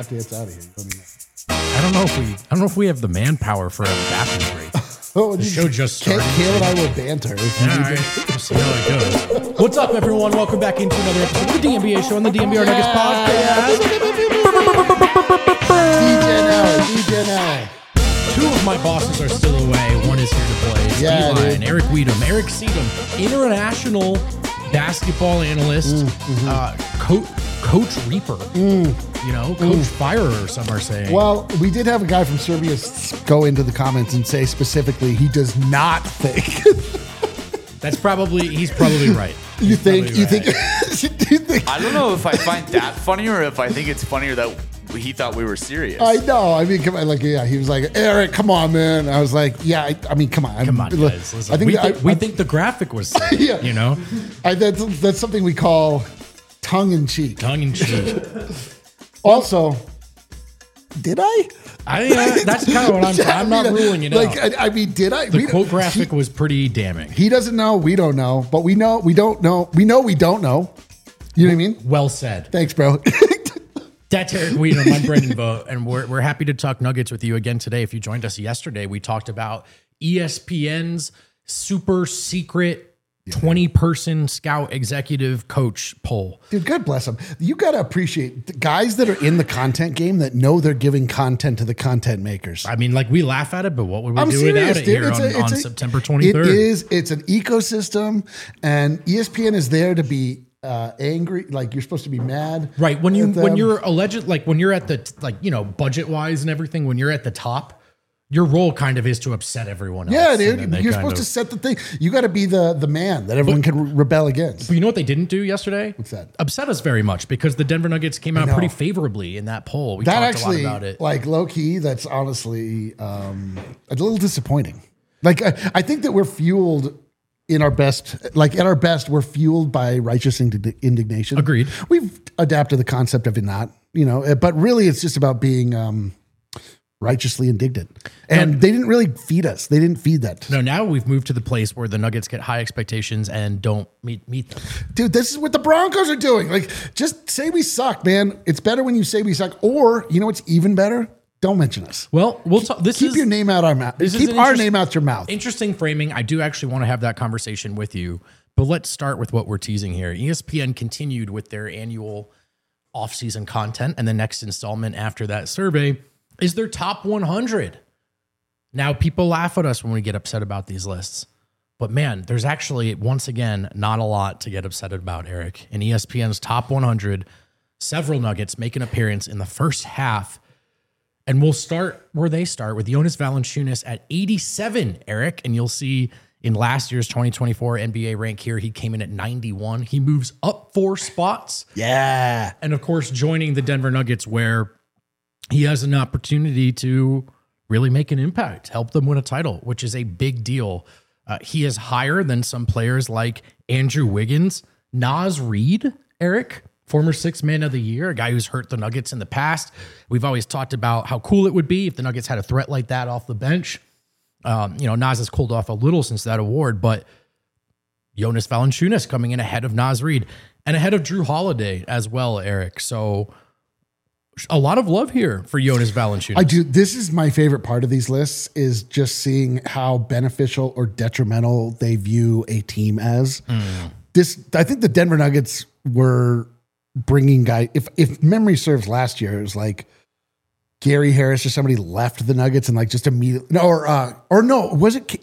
hot dance out of here. Let me know. I don't know if we have the manpower for a bathroom break. Oh, The show just started. Kale and I will banter. All right. We'll see how it goes. What's up, everyone? Welcome back into another episode of the DNBA show on the DNBR Nuggets podcast. DJ now. Two of my bosses are still away. One is here to play. It's Yeah, Eli dude. and Eric Weedham. Eric Seedham, international basketball analyst, Coach Reaper, Coach Firer, some are saying. Well, we did have a guy from Serbia go into the comments and say specifically he does not think. He's probably right. You think? Probably right. Do you think? I don't know if I find that funny or if I think it's funnier that he thought we were serious. I know. I mean, come on. Like, yeah, he was like, Eric, come on, man. I was like, yeah. I mean, come on. Come on, guys. Listen, I think we think the graphic was sick, Yeah. That's something we call tongue in cheek. tongue in cheek. Also, did I? That's kind of what I'm not ruling it out. Like, I mean, did I? The quote graphic was pretty damning. He doesn't know. We don't know. But we know. We don't know. We know. We don't know. You know what I mean? Well said. Thanks, bro. That's Eric Weedham. I'm Brendan Vogt, and we're happy to talk Nuggets with you again today. If you joined us yesterday, we talked about ESPN's super secret 20-person scout executive coach poll. Dude, God bless them. You got to appreciate the guys that are in the content game that know they're giving content to the content makers. I mean, like, we laugh at it, but what would we I'm do serious, without it dude. here on September 23rd? It's an ecosystem, and ESPN is there to be angry. Like, you're supposed to be mad. Right. When at you're alleged, like when you're at the, budget wise and everything, when you're at the top, your role kind of is to upset everyone else. Yeah, And dude. then they You're kind supposed of- to set the thing. You got to be the man that everyone can rebel against. But you know what they didn't do yesterday? What's that? Upset us very much because the Denver Nuggets came out know. pretty favorably in that poll. We That talked actually, a lot about it. like, low key, that's honestly a little disappointing. Like, I think that we're fueled in our best, like at our best, we're fueled by righteous indignation. Agreed. We've adapted the concept of it not, but really it's just about being righteously indignant. And they didn't really feed us. They didn't feed that. No, now we've moved to the place where the Nuggets get high expectations and don't meet them. Dude, this is what the Broncos are doing. Like, just say we suck, man. It's better when you say we suck. Or, you know what's even better? Don't mention us. Well, we'll talk. Keep your name out our mouth. Keep our name out your mouth. Interesting framing. I do actually want to have that conversation with you, but let's start with what we're teasing here. ESPN continued with their annual off-season content, and the next installment after that survey is their top 100. Now, people laugh at us when we get upset about these lists, but man, there's actually, once again, not a lot to get upset about, Eric. In ESPN's top 100, several Nuggets make an appearance in the first half. And we'll start where they start with Jonas Valanciunas at 87, Eric. And you'll see in last year's 2024 NBA rank here, he came in at 91. He moves up 4 spots. Yeah. And of course, joining the Denver Nuggets, where he has an opportunity to really make an impact, help them win a title, which is a big deal. He is higher than some players like Andrew Wiggins, Naz Reid, Eric, former 6th man of the year, a guy who's hurt the Nuggets in the past. We've always talked about how cool it would be if the Nuggets had a threat like that off the bench. Naz has cooled off a little since that award, but Jonas Valanciunas coming in ahead of Naz Reid and ahead of Drew Holiday as well, Eric. So a lot of love here for Jonas Valanciunas. I do. This is my favorite part of these lists is just seeing how beneficial or detrimental they view a team as. I think the Denver Nuggets were bringing guy. If memory serves, last year it was like Gary Harris or somebody left the Nuggets and like just immediately was it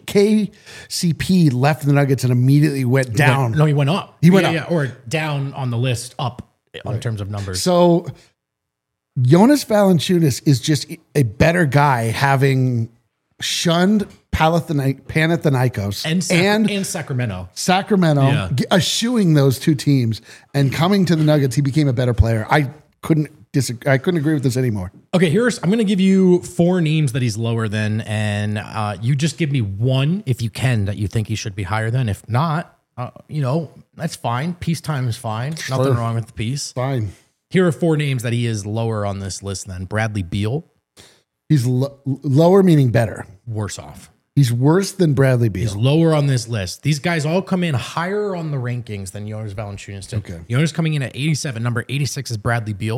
KCP left the Nuggets and immediately went down? No, he went up. He went up. Or down on the list, up in terms of numbers. So Jonas Valanciunas is just a better guy, having shunned Panathinaikos and Sacramento. Yeah. Eschewing those two teams and coming to the Nuggets. He became a better player. I couldn't agree with this anymore. Okay, I'm going to give you 4 names that he's lower than, and you just give me one, if you can, that you think he should be higher than. If not, that's fine. Peacetime is fine. Sure. Nothing wrong with the peace. Fine. Here are 4 names that he is lower on this list than. Bradley Beal. He's lower, meaning better. Worse off. He's worse than Bradley Beal. He's lower on this list. These guys all come in higher on the rankings than Jonas Valanciunas did. Okay. Jonas coming in at 87. Number 86 is Bradley Beal.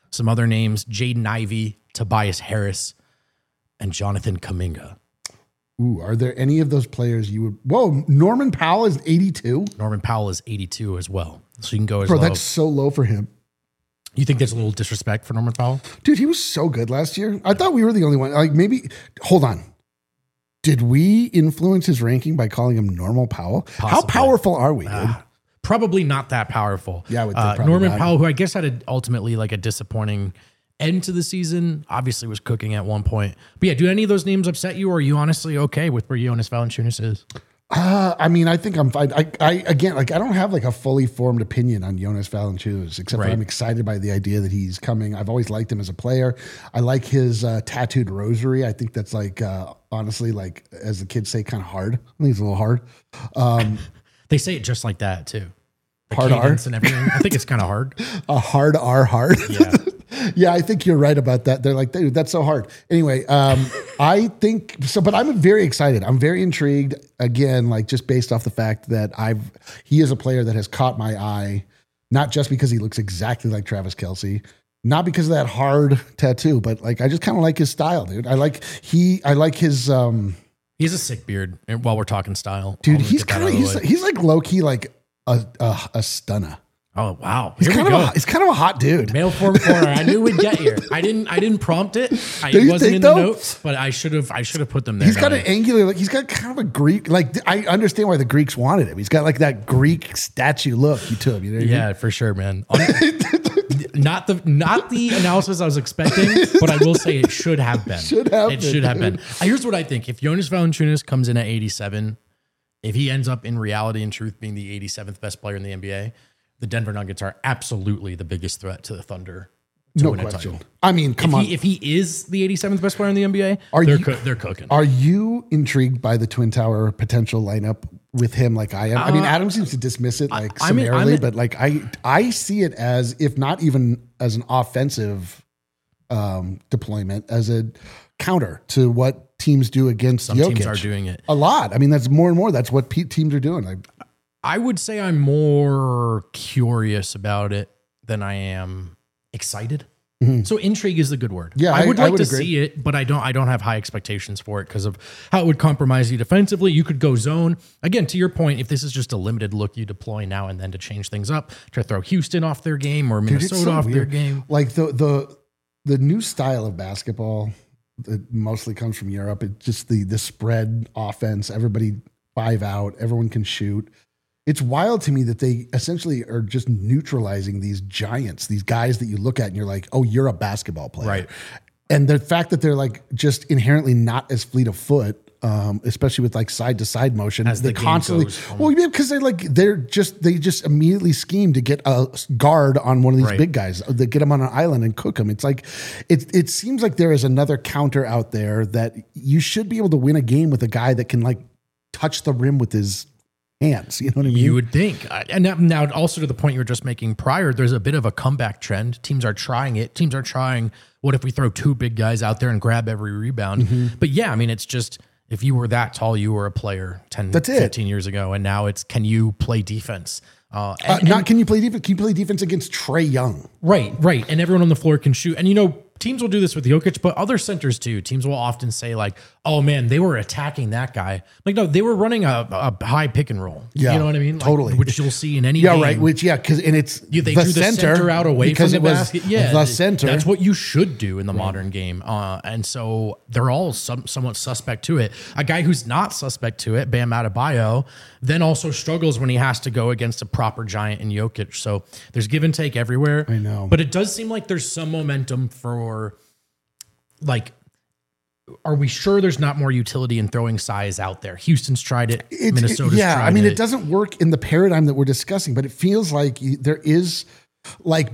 Some other names, Jaden Ivey, Tobias Harris, and Jonathan Kuminga. Ooh, are there any of those players you would... Whoa, Norman Powell is 82? Norman Powell is 82 as well. So you can go as Bro, low. that's so low for him. You think there's a little disrespect for Norman Powell? Dude, he was so good last year. I thought we were the only one. Like maybe... Hold on. Did we influence his ranking by calling him Normal Powell? Possibly. How powerful are we, dude? Probably not that powerful. Yeah, I would think probably Norman not. Powell, who I guess had ultimately like a disappointing end to the season, obviously was cooking at one point. But yeah, do any of those names upset you, or are you honestly okay with where Jonas Valanciunas is? I mean, I think I'm fine. I don't have like a fully formed opinion on Jonas Valanciunas, except for Right. I'm excited by the idea that he's coming. I've always liked him as a player. I like his tattooed rosary. I think that's like, honestly, like as the kids say, kind of hard. I think it's a little hard. They say it just like that too. The Hard R? cadence and everything. I think it's kind of hard. A hard R hard. Yeah. Yeah, I think you're right about that. They're like, dude, that's so hard. Anyway, I think so, but I'm very excited. I'm very intrigued again, like just based off the fact that he is a player that has caught my eye, not just because he looks exactly like Travis Kelce, not because of that hard tattoo, but like, I just kind of like his style, dude. I like his, He has a sick beard while we're talking style. dude, I'll he's get that kind out of, the way. he's like low key, like a stunner. Oh, wow. He's Here we kind go. he's kind of a hot dude. Male form corner. I knew we'd get here. I didn't prompt it. Do It you wasn't think in the though? notes, but I should have put them there. He's got don't an I? angular, like he's got kind of a Greek, like I understand why the Greeks wanted him. He's got like that Greek statue look to him. You know what I mean? Yeah, for sure, man. Not the analysis I was expecting, but I will say it should have been. Should have It been, should have dude. been. Here's what I think. If Jonas Valanciunas comes in at 87, if he ends up in reality and truth being the 87th best player in the NBA, the Denver Nuggets are absolutely the biggest threat to the Thunder to No win a question. title. I mean, come on. If he is the 87th best player in the NBA, they're cooking. Are you intrigued by the Twin Tower potential lineup with him like I am? I mean, Adam seems to dismiss it like I'm in- summarily, but like I see it as, if not even as an offensive deployment, as a counter to what teams do against Some Jokic. teams are doing it. A lot. I mean, that's more and more. That's what teams are doing. Like, I would say I'm more curious about it than I am excited. So intrigue is the good word. Yeah, I would like to agree. see it, but I don't have high expectations for it because of how it would compromise you defensively. You could go zone. Again, to your point, if this is just a limited look you deploy now and then to change things up, to throw Houston off their game or Dude, it's Minnesota so off their weird. game. Like the new style of basketball that mostly comes from Europe. It's just the spread offense. Everybody 5 out. Everyone can shoot. It's wild to me that they essentially are just neutralizing these giants, these guys that you look at and you're like, oh, you're a basketball player. Right. And the fact that they're like just inherently not as fleet of foot, especially with like side to side motion, As they the game constantly, goes on. well, yeah, because they just immediately scheme to get a guard on one of these Right. big guys. They get them on an island and cook them. It's like, it seems like there is another counter out there that you should be able to win a game with a guy that can like touch the rim with his hands. You know what I mean? You would think. And now also to the point you were just making prior, there's a bit of a comeback trend. Teams are trying it. Teams are trying, what if we throw 2 big guys out there and grab every rebound? Mm-hmm. But yeah, I mean, it's just, if you were that tall, you were a player 10, That's it. 15 years ago. And now it's, can you play defense? Can you play defense? Can you play defense against Trey Young? Right. And everyone on the floor can shoot. And, teams will do this with Jokic, but other centers too. Teams will often say like, oh man, they were attacking that guy. Like, no, they were running a high pick and roll. Yeah, You know what I mean? Like, totally. which you'll see in any Yeah, game. right. Which, yeah, because it's They drew the center out away because from the it was basket. Yeah, the center. That's what you should do in the modern game. And so they're all somewhat suspect to it. A guy who's not suspect to it, Bam Adebayo, then also struggles when he has to go against a proper giant in Jokic. So there's give and take everywhere. I know. But it does seem like there's some momentum for, like, are we sure there's not more utility in throwing size out there? Houston's tried it. Minnesota's tried it. I mean, it doesn't work in the paradigm that we're discussing, but it feels like there is, like,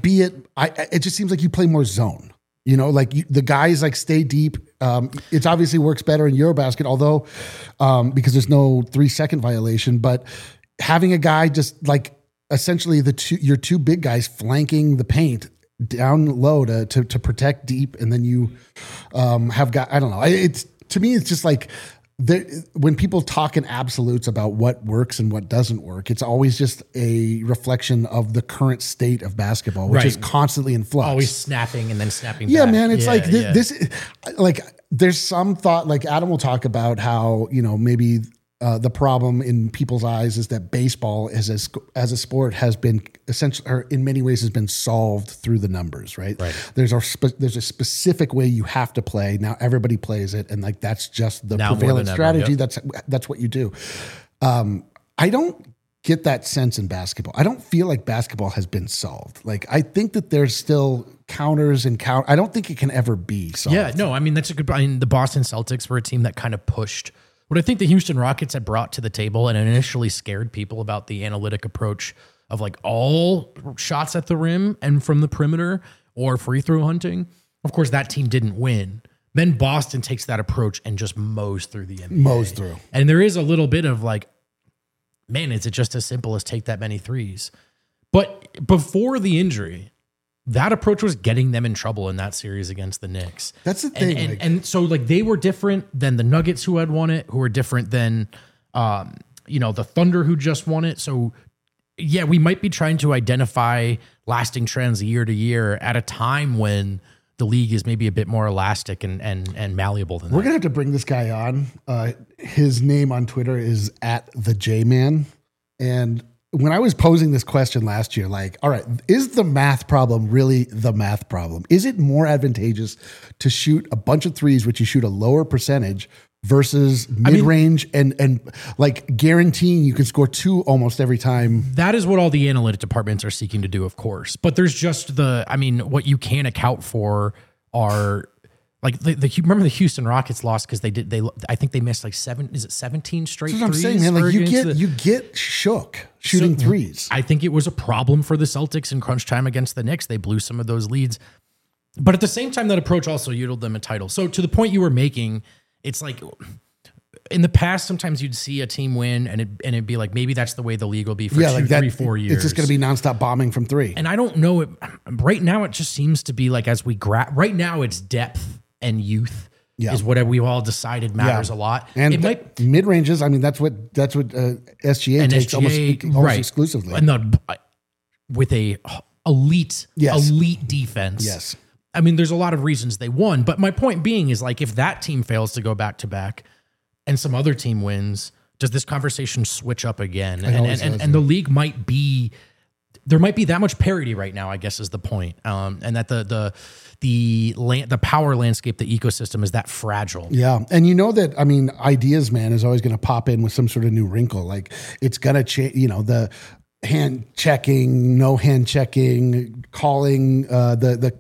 it just seems like you play more zone. Like the guys like stay deep. It obviously works better in Eurobasket, although because there's no 3-second violation. But having a guy just like essentially your 2 big guys flanking the paint down low to protect deep, and then you have got, I don't know. To me, it's just like when people talk in absolutes about what works and what doesn't work, it's always just a reflection of the current state of basketball, which is constantly in flux. Always snapping and then snapping Yeah, back. man. It's this, like, there's some thought, like Adam will talk about how, maybe the problem in people's eyes is that baseball as a sport has been essentially, or in many ways has been solved through the numbers, right? There's a specific way you have to play. Now everybody plays it. And like, that's just the prevalent strategy. That's what you do. I don't get that sense in basketball. I don't feel like basketball has been solved. Like, I think that there's still counters and I don't think it can ever be solved. Yeah, no, I mean, that's a good, the Boston Celtics were a team that kind of pushed what I think the Houston Rockets had brought to the table and initially scared people about the analytic approach of like all shots at the rim and from the perimeter or free throw hunting. Of course, that team didn't win. Then Boston takes that approach and just mows through the NBA. Mows through. And there is a little bit of like, man, is it just as simple as take that many threes? But before the injury, that approach was getting them in trouble in that series against the Knicks. That's the thing. And so like they were different than the Nuggets who had won it, who were different than, the Thunder who just won it. So yeah, we might be trying to identify lasting trends year to year at a time when the league is maybe a bit more elastic and malleable than that. We're going to have to bring this guy on. His name on Twitter is @TheJman. And when I was posing this question last year, like, all right, is the math problem really the math problem? Is it more advantageous to shoot a bunch of threes, which you shoot a lower percentage, versus mid-range and like guaranteeing you can score 2 almost every time? That is what all the analytic departments are seeking to do, of course. But there's just what you can't account for are like remember the Houston Rockets lost because I think they missed like 17 straight threes. That's what I'm saying, man. Like you get shook shooting threes. I think it was a problem for the Celtics in crunch time against the Knicks. They blew some of those leads. But at the same time, that approach also yielded them a title. So to the point you were making, it's like in the past, sometimes you'd see a team win and it'd be like, maybe that's the way the league will be for 2, 3, 4 years. It's just going to be nonstop bombing from 3. And I don't know. Right now, it just seems to be like right now, it's depth and youth is what we all decided matters a lot. And mid ranges. I mean, that's what SGA takes almost exclusively. And with a elite defense. Yes. I mean, there's a lot of reasons they won, but my point being is like, if that team fails to go back to back and some other team wins, does this conversation switch up again? And the league there might be that much parity right now, I guess is the point. And that the power landscape, the ecosystem is that fragile. Yeah. And that, I mean, Ideas Man is always going to pop in with some sort of new wrinkle. Like it's going to change, the hand checking, no hand checking, calling, the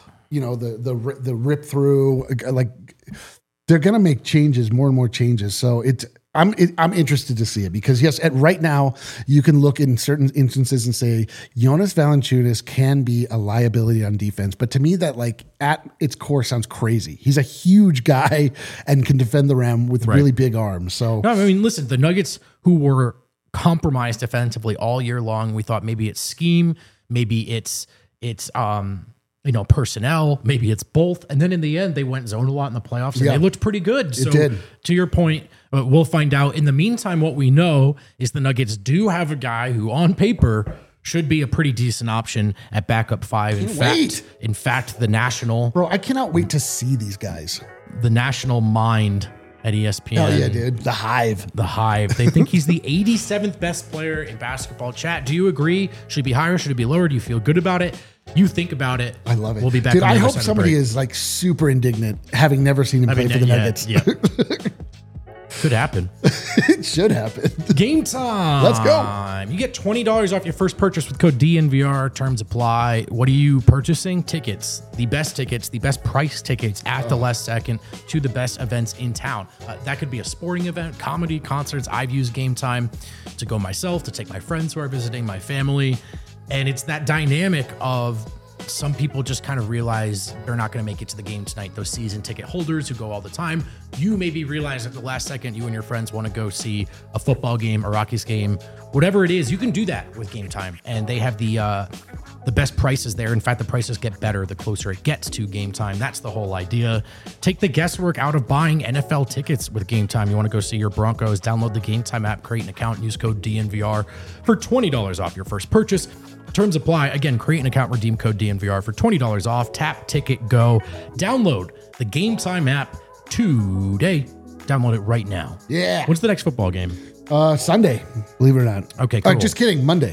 rip through, like they're going to make changes, more and more changes. So I'm interested to see it because yes, right now you can look in certain instances and say Jonas Valanciunas can be a liability on defense, but to me that like at its core sounds crazy. He's a huge guy and can defend the rim with really big arms. So no, I mean, listen, the Nuggets who were compromised defensively all year long, we thought maybe it's scheme, maybe it's personnel, maybe it's both. And then in the end, they went zone a lot in the playoffs and they looked pretty good. So to your point, we'll find out. In the meantime, what we know is the Nuggets do have a guy who on paper should be a pretty decent option at backup 5. In fact, the national... Bro, I cannot wait to see these guys. The national mind at ESPN. Oh yeah, dude. The Hive. They think he's the 87th best player in basketball. Chat, do you agree? Should he be higher? Should it be lower? Do you feel good about it? You think about it. I love it. We'll be back. Dude, I hope somebody is like super indignant having never seen him play for the Nuggets. Yeah. Could happen. It should happen. Game time. Let's go. You get $20 off your first purchase with code DNVR. Terms apply. What are you purchasing? Tickets. The best price tickets at the last second to the best events in town. That could be a sporting event, comedy, concerts. I've used Game Time to go myself, to take my friends who are visiting, my family. And it's that dynamic of some people just kind of realize they're not going to make it to the game tonight. Those season ticket holders who go all the time, you maybe realize at the last second you and your friends want to go see a football game, a Rockies game, whatever it is. You can do that with Game Time, and they have the best prices there. In fact, the prices get better the closer it gets to Game Time. That's the whole idea. Take the guesswork out of buying NFL tickets with Game Time. You want to go see your Broncos? Download the Game Time app, create an account, use code DNVR for $20 off your first purchase. Terms apply. Again, create an account, redeem code DNVR for $20 off. Tap, ticket, go. Download the Game Time app today. Download it right now. Yeah. What's the next football game? Sunday, believe it or not. Okay, cool. Just kidding. Monday.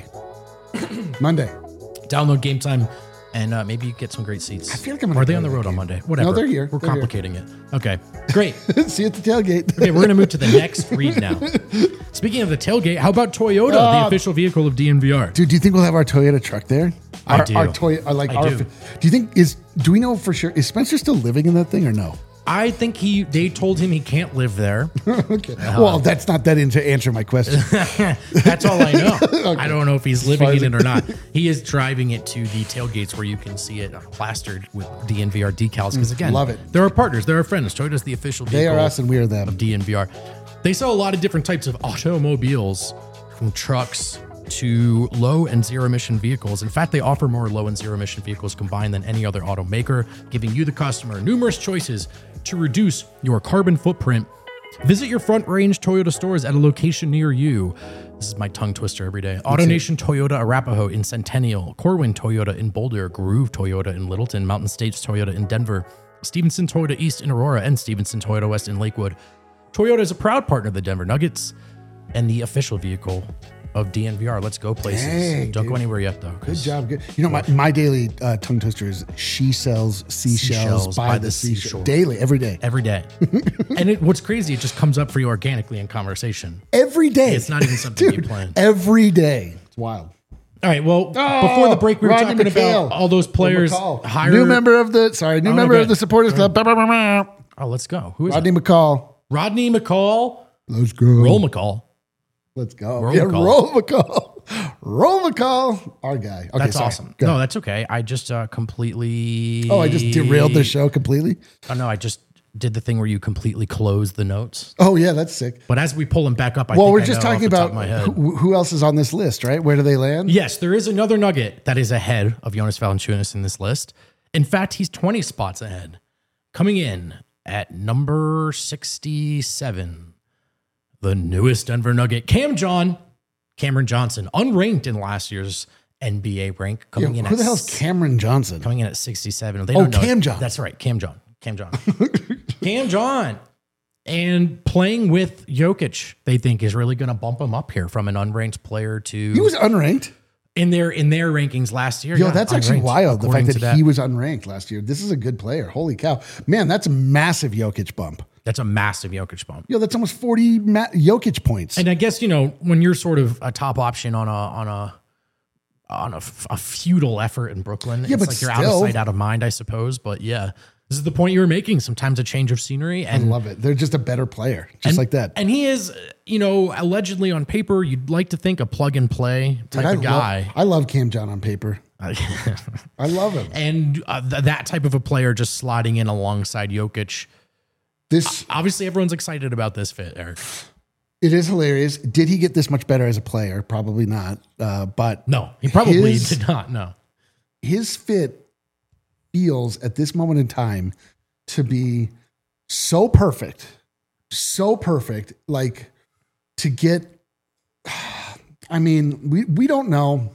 Monday. Download Game Time, and maybe you get some great seats. I feel like I'm Or are they on the road on Monday? Whatever. No, they're here. We're They're complicating it. Okay, great. See you at the tailgate. Okay, we're going to move to the next read now. Speaking of the tailgate, how about Toyota, the official vehicle of DNVR? Dude, do you think we'll have our Toyota truck there? I do. Our Toyota, like I our. do. Do you think do we know for sure? Is Spencer still living in that thing or no? I think they told him he can't live there. Okay. Well, that's not that in to answer my question. That's all I know. Okay. I don't know if he's living in it or not. He is driving it to the tailgates where you can see it plastered with DNVR decals. Because again, Love it. They're our partners. They're our friends. Toyota's the official vehicle. They are us and we are them. Of DNVR. They sell a lot of different types of automobiles, from trucks to low and zero emission vehicles. In fact, they offer more low and zero emission vehicles combined than any other automaker, giving you, the customer, numerous choices to reduce your carbon footprint. Visit your Front Range Toyota stores at a location near you. This is my tongue twister every day. AutoNation Toyota Arapahoe in Centennial, Corwin Toyota in Boulder, Groove Toyota in Littleton, Mountain States Toyota in Denver, Stevenson Toyota East in Aurora, and Stevenson Toyota West in Lakewood. Toyota is a proud partner of the Denver Nuggets and the official vehicle of DNVR. Let's go places. Dang, Don't dude. go anywhere yet, though. Good job. Good. You know, my daily tongue twister is she sells seashells by the seashore. Daily, every day. Every day. And what's crazy, it just comes up for you organically in conversation. Every day. It's not even something you Dude, plan. every day. It's wild. All right. Well, before the break, we were Rodney talking McHale. about all those players McCall. hired. New member of the good. supporters club. Oh, let's go. Who is Rodney it? McCall. Rodney McCall. Let's go. Roll McCall. Let's go. Roll yeah, McCall. Roll McCall. Roll McCall. Our guy. Okay, That's sorry. awesome. Go. No, that's okay. I just completely. Oh, I just derailed the show completely. Oh, no, I just did the thing where you completely close the notes. Oh, yeah, that's sick. But as we pull them back up, Well, think we're I just know off talking the top about of my head. who else is on this list, right? Where do they land? Yes, there is another Nugget that is ahead of Jonas Valanciunas in this list. In fact, he's 20 spots ahead. Coming in at number 67, the newest Denver Nugget, Cameron Johnson, unranked in last year's NBA rank, coming in Who at the hell's Cameron Johnson? coming in at 67. They don't know. Cam John. That's right, Cam John. Cam John. And playing with Jokic, they think is really going to bump him up here from an unranked player to He was unranked. in their rankings last year. Yo, yeah, that's actually unranked, wild. The according fact to that he was unranked last year. This is a good player. Holy cow. Man, that's a massive Jokic bump. That's a massive Jokic bump. Yo, that's almost 40 Jokic points. And I guess, when you're sort of a top option on a feudal effort in Brooklyn, Yeah, it's but like you're out still. of sight, out of mind, I suppose. But yeah, this is the point you were making. Sometimes a change of scenery. I And love it. They're just a better player, just like that. And he is, allegedly on paper, you'd like to think a plug and play type of guy. I love Cam John on paper. I love him. And that type of a player just sliding in alongside Jokic. This Obviously, everyone's excited about this fit, Eric. it is hilarious. Did he get this much better as a player? Probably not. But No, he probably His- did not. No. his fit feels at this moment in time to be so perfect, like to get, I mean, we don't know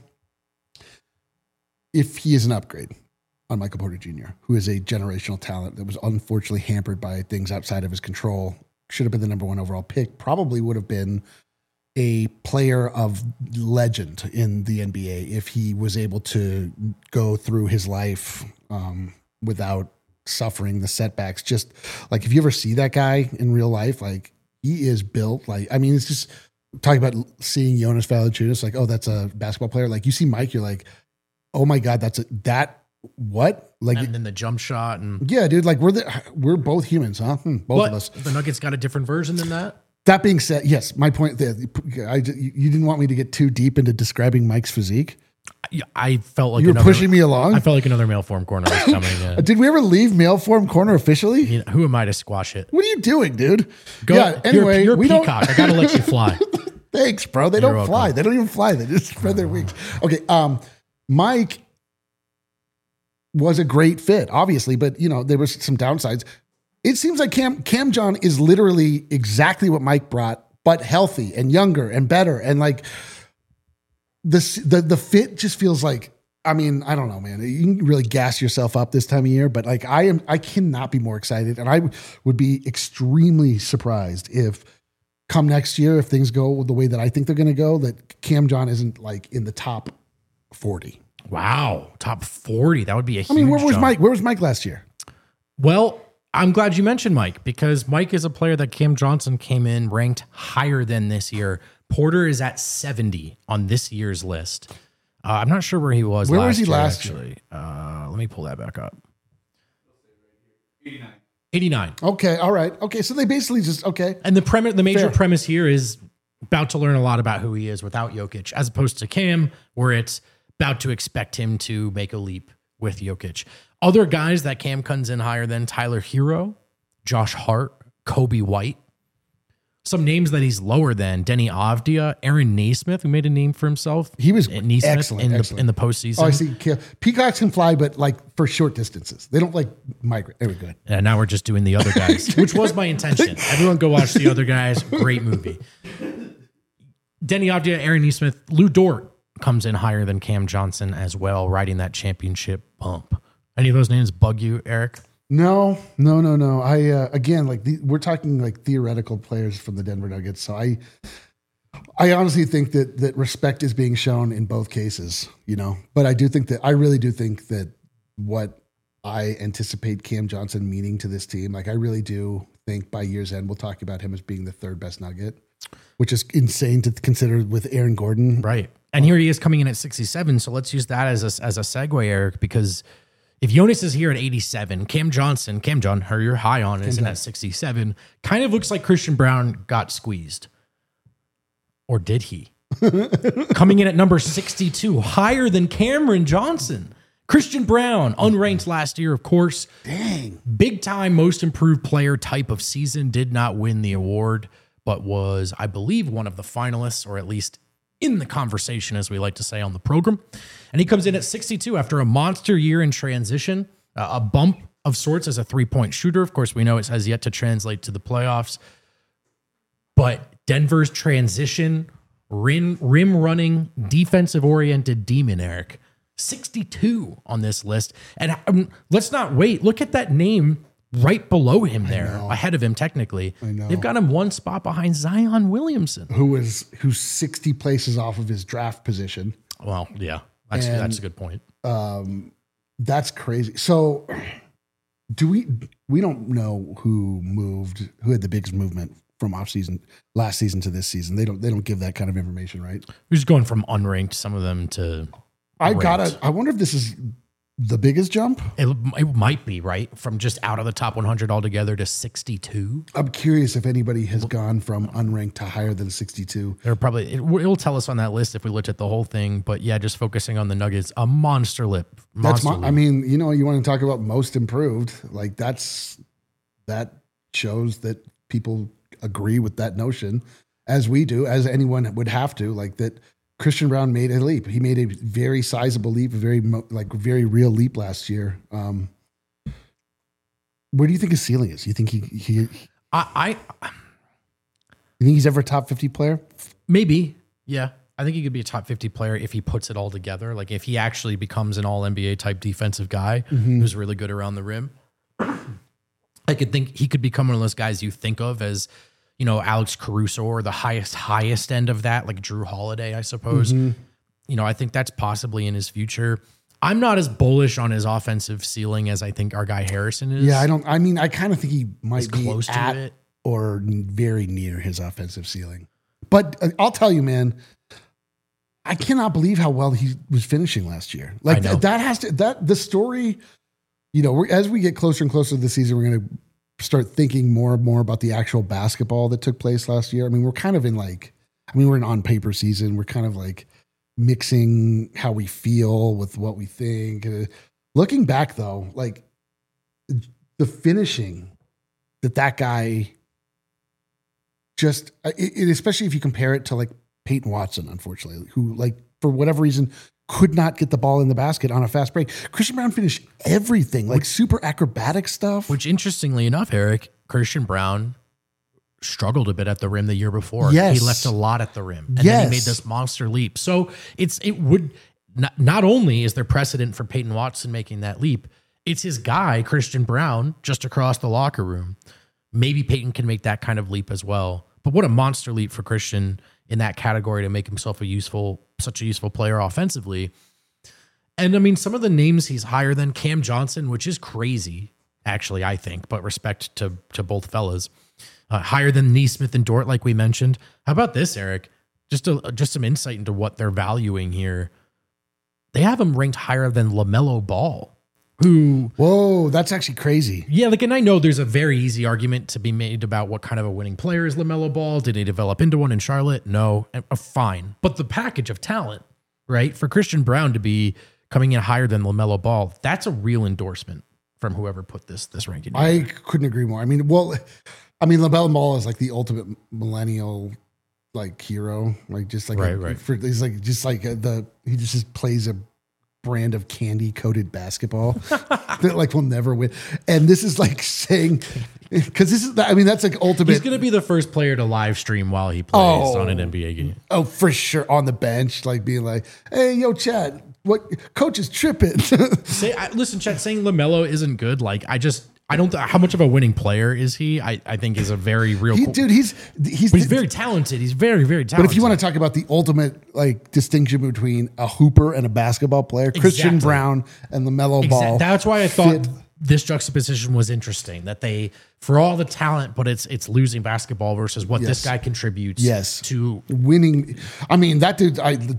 if he is an upgrade on Michael Porter Jr., who is a generational talent that was unfortunately hampered by things outside of his control. Should have been the number one overall pick, probably would have been a player of legend in the NBA if he was able to go through his life without suffering the setbacks. Just like, if you ever see that guy in real life, like he is built like, I mean, it's just talking about seeing Jonas Valanciunas, like, oh, that's a basketball player. Like you see Mike, you're like, oh my God, what? Like, And then the jump shot. And yeah, dude, like we're both humans, huh? Both of us. the Nuggets got a different version than that. That being said, yes, my point there, you didn't want me to get too deep into describing Mike's physique, I felt like You were pushing me along? I felt like another mail form corner was coming. Yeah. Did we ever leave mail form corner officially? You know, who am I to squash it? What are you doing, dude? Go, yeah. Anyway, you're a we don't. peacock. I gotta let you fly. Thanks, bro. They You're don't fly. welcome. They don't even fly. They just spread their wings. Okay. Mike was a great fit, obviously, but you know there was some downsides. It seems like Cam John is literally exactly what Mike brought, but healthy and younger and better, and like the fit just feels like. I mean, I don't know, man. You can really gas yourself up this time of year, but like I cannot be more excited, and I would be extremely surprised if come next year, if things go the way that I think they're going to go, that Cam John isn't like in the top 40. Wow, top 40. That would be a huge I mean, where was jump. Mike? Where was Mike last year? Well, I'm glad you mentioned Mike because Mike is a player that Cam Johnson came in ranked higher than this year. Porter is at 70 on this year's list. I'm not sure where he was. Where last was he year, last actually. Let me pull that back up. 89. Okay, all right. Okay, so they basically just okay. And the major Fair. premise here is about to learn a lot about who he is without Jokic, as opposed to Cam, where it's about to expect him to make a leap with Jokic. Other guys that Cam comes in higher than Tyler Hero, Josh Hart, Kobe White. Some names that he's lower than: Denny Avdia, Aaron Naismith, who made a name for himself. He was Naismith excellent in the postseason. Oh, I see. Peacocks can fly, but like for short distances. They don't like migrate. Very good. And now we're just doing The Other Guys, which was my intention. Everyone go watch The Other Guys. Great movie. Denny Avdia, Aaron Naismith, Lou Dort comes in higher than Cam Johnson as well, riding that championship bump. Any of those names bug you, Eric? No. I again, like we're talking like theoretical players from the Denver Nuggets. So I honestly think that respect is being shown in both cases, you know. But I really do think that what I anticipate Cam Johnson meaning to this team, like I really do think by year's end we'll talk about him as being the third best Nugget, which is insane to consider with Aaron Gordon. Right. And here he is coming in at 67. So let's use that as a segue, Eric, because if Jonas is here at 87, Cam John, who you're high on, isn't at 67, kind of looks like Christian Brown got squeezed. Or did he? Coming in at number 62, higher than Cameron Johnson. Christian Brown, unranked last year, of course. Dang. Big time most improved player type of season. Did not win the award, but was, I believe, one of the finalists, or at least in the conversation, as we like to say on the program. And he comes in at 62 after a monster year in transition, a bump of sorts as a three-point shooter. Of course, we know it has yet to translate to the playoffs. But Denver's transition, rim running, defensive-oriented demon, Eric, 62 on this list. And let's not wait. Look at that name right below him there, ahead of him technically. I know. They've got him one spot behind Zion Williamson. Who's 60 places off of his draft position. Well, yeah, that's a good point. That's crazy. So we don't know who had the biggest movement from last season to this season. They don't give that kind of information, right? We're just going from unranked, some of them, to ranked. I wonder if this is the biggest jump. It might be, right? From just out of the top 100 altogether to 62. I'm curious if anybody has gone from unranked to higher than 62. They're probably, it'll tell us on that list if we looked at the whole thing. But yeah, just focusing on the Nuggets, a monster leap. I mean, you know, you want to talk about most improved, like that shows that people agree with that notion, as we do, as anyone would have to, like that. Christian Brown made a leap. He made a very sizable leap, a very real leap last year. Where do you think his ceiling is? You think you think he's ever a top 50 player? Maybe. Yeah. I think he could be a top 50 player if he puts it all together. Like if he actually becomes an all NBA type defensive guy who's really good around the rim. I could think he could become one of those guys you think of as, you know, Alex Caruso, or the highest end of that, like Drew Holiday, I suppose. You know, I think that's possibly in his future. I'm not as bullish on his offensive ceiling as I think our guy Harrison is. Yeah, I kind of think he might be close to at it, or very near his offensive ceiling. But I'll tell you, man, I cannot believe how well he was finishing last year. Like the story, you know, as we get closer and closer to the season, we're going to start thinking more and more about the actual basketball that took place last year. I mean, we're kind of in we're an on paper season. We're kind of like mixing how we feel with what we think. Looking back though, like the finishing that guy just, especially if you compare it to like Peyton Watson, unfortunately, who like for whatever reason could not get the ball in the basket on a fast break. Christian Braun finished everything, like super acrobatic stuff. Which interestingly enough, Eric, Christian Braun struggled a bit at the rim the year before. Yes. He left a lot at the rim. And then he made this monster leap. So it would not only is there precedent for Peyton Watson making that leap, it's his guy, Christian Braun, just across the locker room. Maybe Peyton can make that kind of leap as well. But what a monster leap for Christian in that category to make himself such a useful player offensively. And I mean, some of the names he's higher than Cam Johnson, which is crazy, actually, I think, but respect to both fellas. Higher than Neesmith and Dort, like we mentioned. How about this, Eric? Just some insight into what they're valuing here. They have him ranked higher than LaMelo Ball, who... Whoa, that's actually crazy. Yeah, like, and I know there's a very easy argument to be made about what kind of a winning player is LaMelo Ball. Did he develop into one in Charlotte? No. Fine. But the package of talent, right? For Christian Braun to be coming in higher than LaMelo Ball, that's a real endorsement from whoever put this ranking. I couldn't agree more. I mean, LaMelo Ball is like the ultimate millennial like hero, like just like right. He's like he just plays a brand of candy coated basketball that like will never win. And this is like saying, because that's like ultimate. He's going to be the first player to live stream while he plays on an NBA game. Oh, for sure, on the bench, like being like, "Hey, yo, Chad, what coach is tripping?" Listen, Chad, saying LaMelo isn't good. Like, I don't. How much of a winning player is he? I think is a very real. He's very talented. He's very, very talented. But if you want to talk about the ultimate like distinction between a hooper and a basketball player, Christian Braun and LaMelo Ball. That's why I thought this juxtaposition was interesting. That they, for all the talent, but it's losing basketball versus what this guy contributes. To winning. I mean, that dude.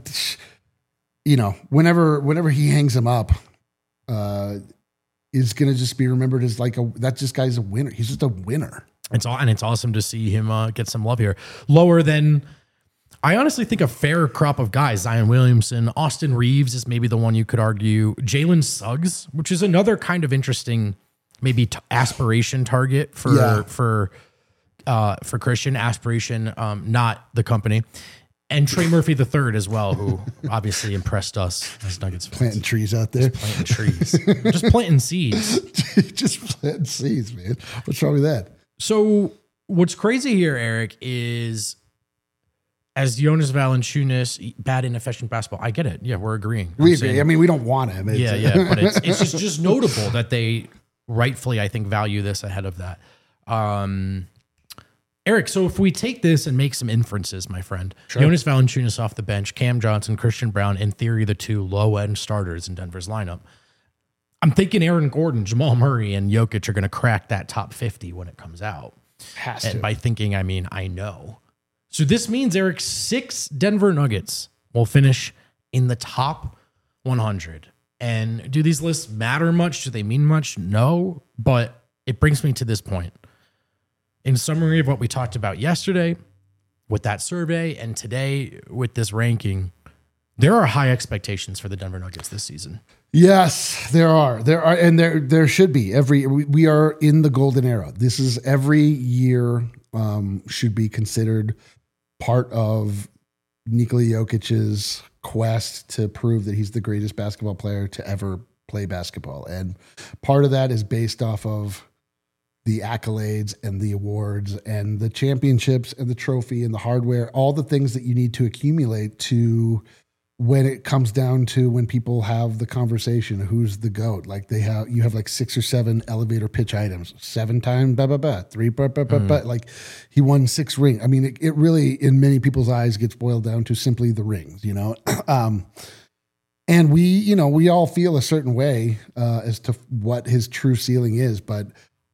Whenever he hangs him up, is going to just be remembered as like this guy's a winner. He's just a winner. It's awesome to see him get some love here. Lower than, I honestly think, a fair crop of guys. Zion Williamson, Austin Reeves is maybe the one you could argue. Jalen Suggs, which is another kind of interesting, maybe aspiration target for Christian. Aspiration, not the company. And Trey Murphy III as well, who obviously impressed us as Nuggets fans. Planting trees out there. Just planting trees. Just planting seeds. Just planting seeds, man. What's wrong with that? So what's crazy here, Eric, is as Jonas Valanciunas, bad inefficient basketball. I get it. Yeah, we're agreeing. We agree. I mean, we don't want him. But it's just notable that they rightfully, I think, value this ahead of that. Eric, so if we take this and make some inferences, my friend, sure. Jonas Valanciunas off the bench, Cam Johnson, Christian Braun, in theory, the two low-end starters in Denver's lineup. I'm thinking Aaron Gordon, Jamal Murray, and Jokic are going to crack that top 50 when it comes out. And by thinking, I mean, I know. So this means, Eric, 6 Denver Nuggets will finish in the top 100. And do these lists matter much? Do they mean much? No. But it brings me to this point. In summary of what we talked about yesterday with that survey and today with this ranking, there are high expectations for the Denver Nuggets this season. Yes, there are, and there should be. We are in the golden era. This is every year should be considered part of Nikola Jokic's quest to prove that he's the greatest basketball player to ever play basketball, and part of that is based off of the accolades and the awards and the championships and the trophy and the hardware, all the things that you need to accumulate to when it comes down to when people have the conversation, who's the GOAT? Like you have like 6 or 7 elevator pitch items, 7 times, 3, like he won 6 rings. I mean, it really, in many people's eyes, gets boiled down to simply the rings, and we all feel a certain way as to what his true ceiling is, but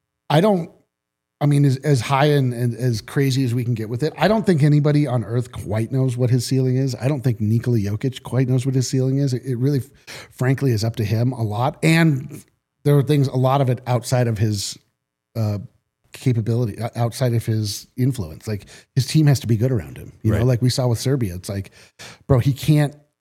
as high and as crazy as we can get with it, I don't think anybody on earth quite knows what his ceiling is. I don't think Nikola Jokic quite knows what his ceiling is. It really, frankly, is up to him a lot. And there are things, a lot of it outside of his capability, outside of his influence. Like his team has to be good around him. You know, like we saw with Serbia. It's like, bro, he can't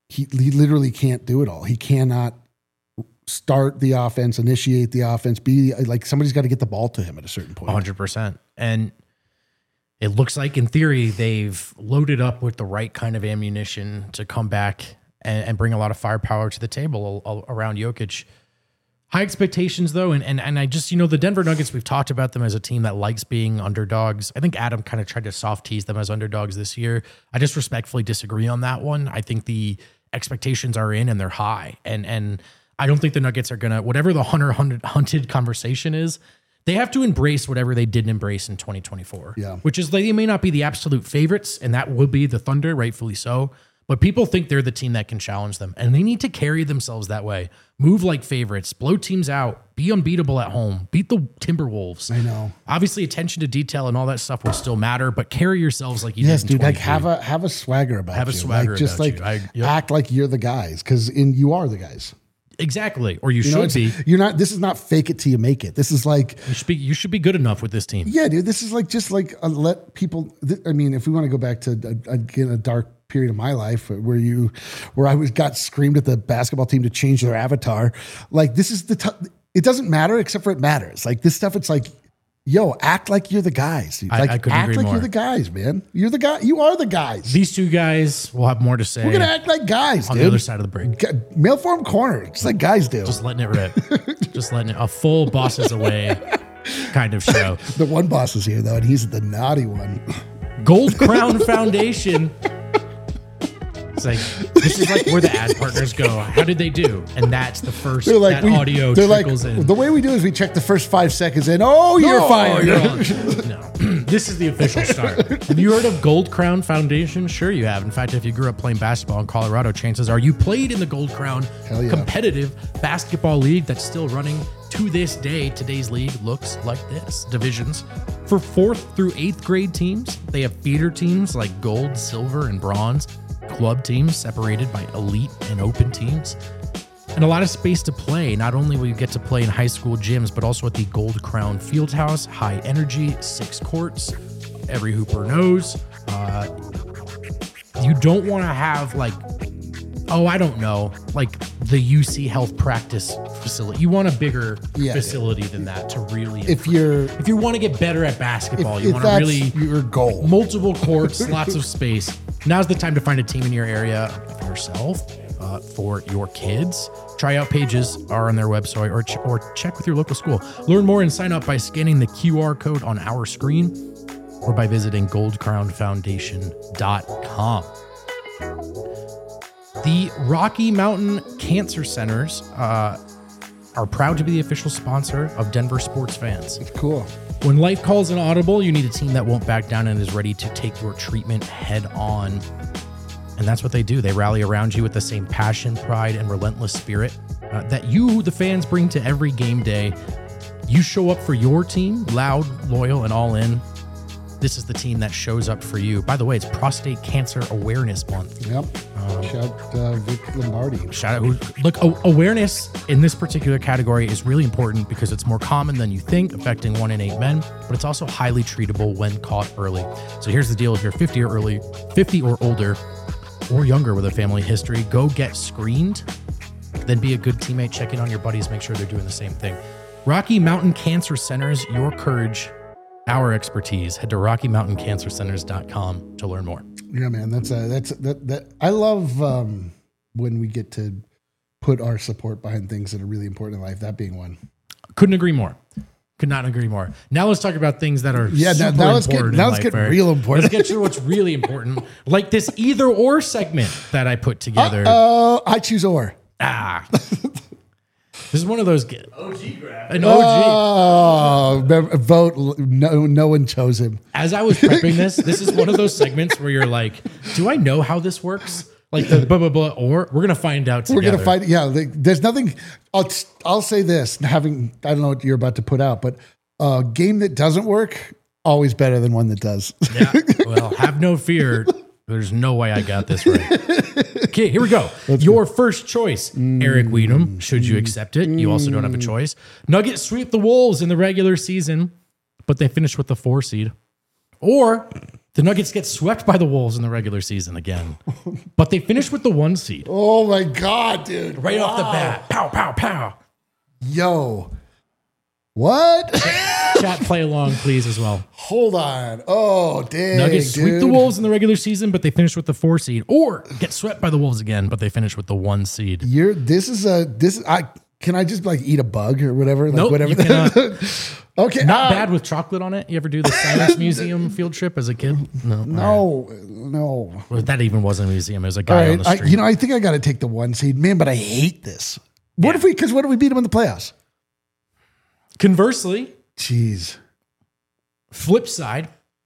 he literally can't do it all. He cannot start the offense, initiate the offense, be like somebody's got to get the ball to him at a certain point. 100%. And it looks like in theory, they've loaded up with the right kind of ammunition to come back and bring a lot of firepower to the table around Jokic. High expectations though. And I just, the Denver Nuggets, we've talked about them as a team that likes being underdogs. I think Adam kind of tried to soft tease them as underdogs this year. I just respectfully disagree on that one. I think the expectations are in and they're high. And I don't think the Nuggets are going to, whatever the hunted conversation is, they have to embrace whatever they didn't embrace in 2024. Yeah. Which is they may not be the absolute favorites, and that will be the Thunder, rightfully so. But people think they're the team that can challenge them, and they need to carry themselves that way. Move like favorites, blow teams out, be unbeatable at home, beat the Timberwolves. I know. Obviously, attention to detail and all that stuff will still matter, but carry yourselves like you Yes, did in dude. Like 23. have a swagger about you. Have a swagger like, just about like you. act like you're the guys because you are the guys. Exactly, or you know, should be. You're not. This is not fake it till you make it. This is like You should be good enough with this team. yeah, dude. This is like just like let people. I mean, if we want to go back to again a dark period of my life where I got screamed at the basketball team to change their avatar. Like this is it doesn't matter except for it matters. Like this stuff, it's like, yo, act like you're the guys. Like I couldn't act agree like more. you're the guys, man. You're the guy. You are the guys. These two guys will have more to say We're gonna act like guys, on dude. the other side of the break. Mail form corner, just like guys do. Just letting it rip. Just letting it, a full bosses away kind of show. The one boss is here though, and he's the naughty one. Gold Crown Foundation. It's like, this is like where the ad partners go. How did they do? And that's the first, that audio trickles in. The way we do is we check the first 5 seconds and you're fired. You're on. No, this is the official start. Have you heard of Gold Crown Foundation? Sure you have. In fact, if you grew up playing basketball in Colorado, chances are you played in the Gold Crown Hell yeah. competitive basketball league that's still running to this day. Today's league looks like this. Divisions. For 4th through 8th grade teams, they have feeder teams like gold, silver, and bronze. Club teams separated by elite and open teams, and a lot of space to play. Not only will you get to play in high school gyms, but also at the Gold Crown Fieldhouse, high energy, 6 courts. Every hooper knows. You don't want to have like the UC Health practice facility. You want a bigger facility than that to really. If you want to get better at basketball, you if want to that's really your goal. multiple courts, lots of space. Now's the time to find a team in your area for yourself, for your kids. Tryout pages are on their website or check with your local school. Learn more and sign up by scanning the QR code on our screen or by visiting goldcrownfoundation.com. The Rocky Mountain Cancer Centers are proud to be the official sponsor of Denver sports fans. It's cool. When life calls an audible, you need a team that won't back down and is ready to take your treatment head on. And that's what they do. They rally around you with the same passion, pride, and relentless spirit that you, the fans, bring to every game day. You show up for your team, loud, loyal, and all in. This is the team that shows up for you. By the way, it's Prostate Cancer Awareness Month. Yep. Shout Vic Lombardi. Shout out. Look, awareness in this particular category is really important because it's more common than you think, affecting 1 in 8 men, but it's also highly treatable when caught early. So here's the deal. If you're 50 or older, or younger with a family history, go get screened. Then be a good teammate. Check in on your buddies. Make sure they're doing the same thing. Rocky Mountain Cancer Centers, your courage, our expertise. Head to RockyMountainCancerCenters.com to learn more. Yeah, man. That. I love when we get to put our support behind things that are really important in life. That being one. Couldn't agree more. Could not agree more. Now let's talk about things that are super now let's important. Let's get real important. Let's get to what's really important, like this either or segment that I put together. I choose or. This is one of those OG graph. An OG. Vote. No one chose him. As I was prepping this is one of those segments where you're like, do I know how this works? Like the blah, blah, blah, or we're going to find out together. We're going to find, there's nothing. I'll say this, I don't know what you're about to put out, but a game that doesn't work, always better than one that does. Yeah. Well, have no fear. There's no way I got this right. Okay, here we go. Your first choice, Eric Weedham. Should you accept it? You also don't have a choice. Nuggets sweep the Wolves in the regular season, but they finish with the 4 seed. Or The Nuggets get swept by the Wolves in the regular season again, but they finish with the 1 seed. Oh my God, dude. Right off the bat. Pow, pow, pow. Yo. What? Chat, play along, please, as well. Hold on. Oh, dang. Nuggets sweep dude. the Wolves in the regular season, but they finish with the 4 seed, or get swept by the Wolves again, but they finish with the 1 seed. Can I just like eat a bug or whatever? Like Nope, whatever. you cannot. Okay. Not bad with chocolate on it. You ever do the Science Museum field trip as a kid? No. No. Well, that even wasn't a museum. It was a All guy on right. the street. I think I got to take the 1 seed, man, but I hate this. What if we beat them in the playoffs? Conversely, Jeez. flip side,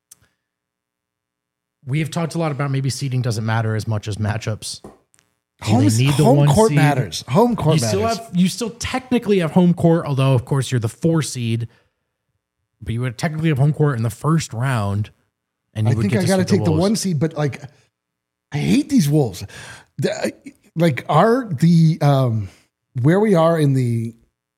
we have talked a lot about maybe seeding doesn't matter as much as matchups. Home court seed. matters. Home court matters. You still technically have home court, although of course you're the 4 seed, but you would technically have home court in the first round. And I think I got to take the 1 seed, but like, I hate these Wolves. Where we are in the,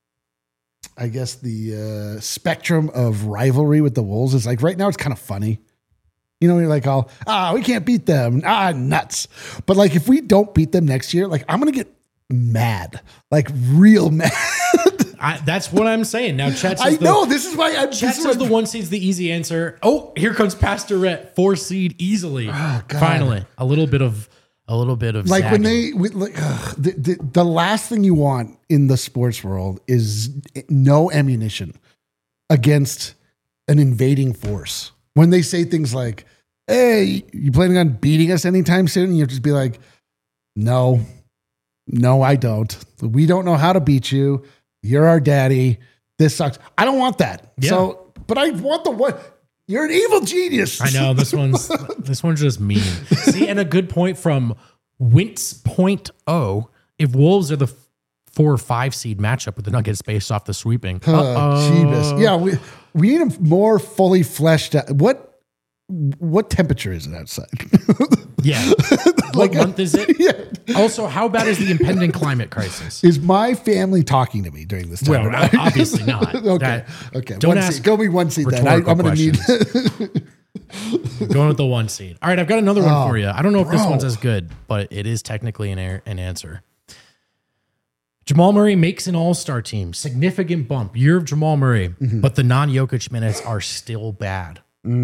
I guess the spectrum of rivalry with the Wolves is like right now it's kind of funny. You know, you're like, we can't beat them. Nuts. But like, if we don't beat them next year, like I'm going to get mad, like real mad. That's what I'm saying. Now, Chet says this is why Chet says the 1 seed's the easy answer. Oh, here comes Pastor Rhett, 4 seed easily. Oh, God. Finally, a little bit of like zagging. the last thing you want in the sports world is no ammunition against an invading force. When they say things like, hey, you planning on beating us anytime soon? And you just be like, no, I don't. We don't know how to beat you. You're our daddy. This sucks. I don't want that. Yeah. So, but I want the one. You're an evil genius. I know this one's just mean. See, and a good point from Wince.0. If Wolves are the 4 or 5 seed matchup with the Nuggets based off the sweeping. Jeebus. Yeah, we need them more fully fleshed out. What temperature is it outside? Yeah. What month is it? Yeah. Also, how bad is the impending climate crisis? Is my family talking to me during this time? Well, obviously not. Okay. Don't ask. Go me 1 seed then. I'm going to need. Going with the 1 seed. All right, I've got another one for you. I don't know if this one's as good, but it is technically an answer. Jamal Murray makes an all-star team. Significant bump. Year of Jamal Murray. But the non-Jokic minutes are still bad.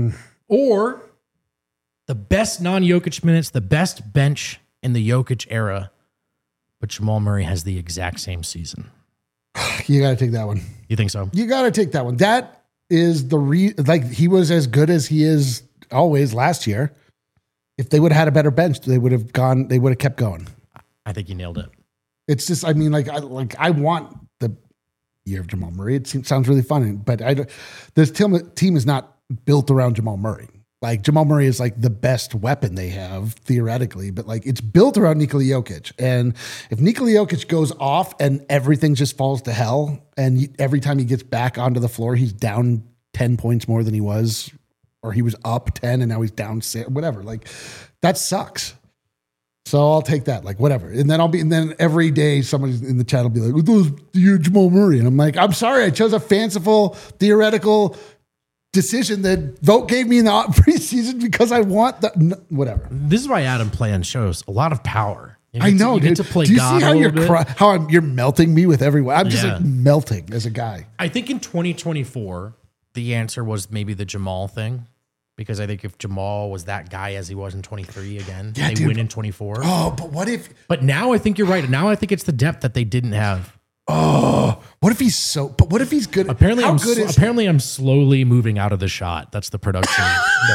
Or the best non-Jokic minutes, the best bench in the Jokic era. But Jamal Murray has the exact same season. You got to take that one. You think so? You got to take that one. That is he was as good as he is always last year. If they would have had a better bench, they would have kept going. I think you nailed it. It's just, I mean, I want the year of Jamal Murray. It sounds really fun, but this team is not built around Jamal Murray. Like Jamal Murray is like the best weapon they have theoretically, but like it's built around Nikola Jokic. And if Nikola Jokic goes off and everything just falls to hell, and every time he gets back onto the floor, he's down 10 points more than he was, or he was up 10 and now he's down 6, whatever. Like that sucks. So I'll take that, like whatever. And then every day somebody in the chat will be like, you're Jamal Murray. And I'm like, I'm sorry, I chose a fanciful, theoretical decision that Vote gave me in the preseason because I want that, whatever. This is why Adam playing shows a lot of power. I know, you dude. get to play Do you God see how you're you're melting me with everyone? I'm just like melting as a guy. I think in 2024, the answer was maybe the Jamal thing. Because I think if Jamal was that guy as he was in 23 again, they win in 24. Oh, but what if... But now I think you're right. Now I think it's the depth that they didn't have. Oh, what if he's so... But what if he's good? Apparently, I'm slowly moving out of the shot. That's the production.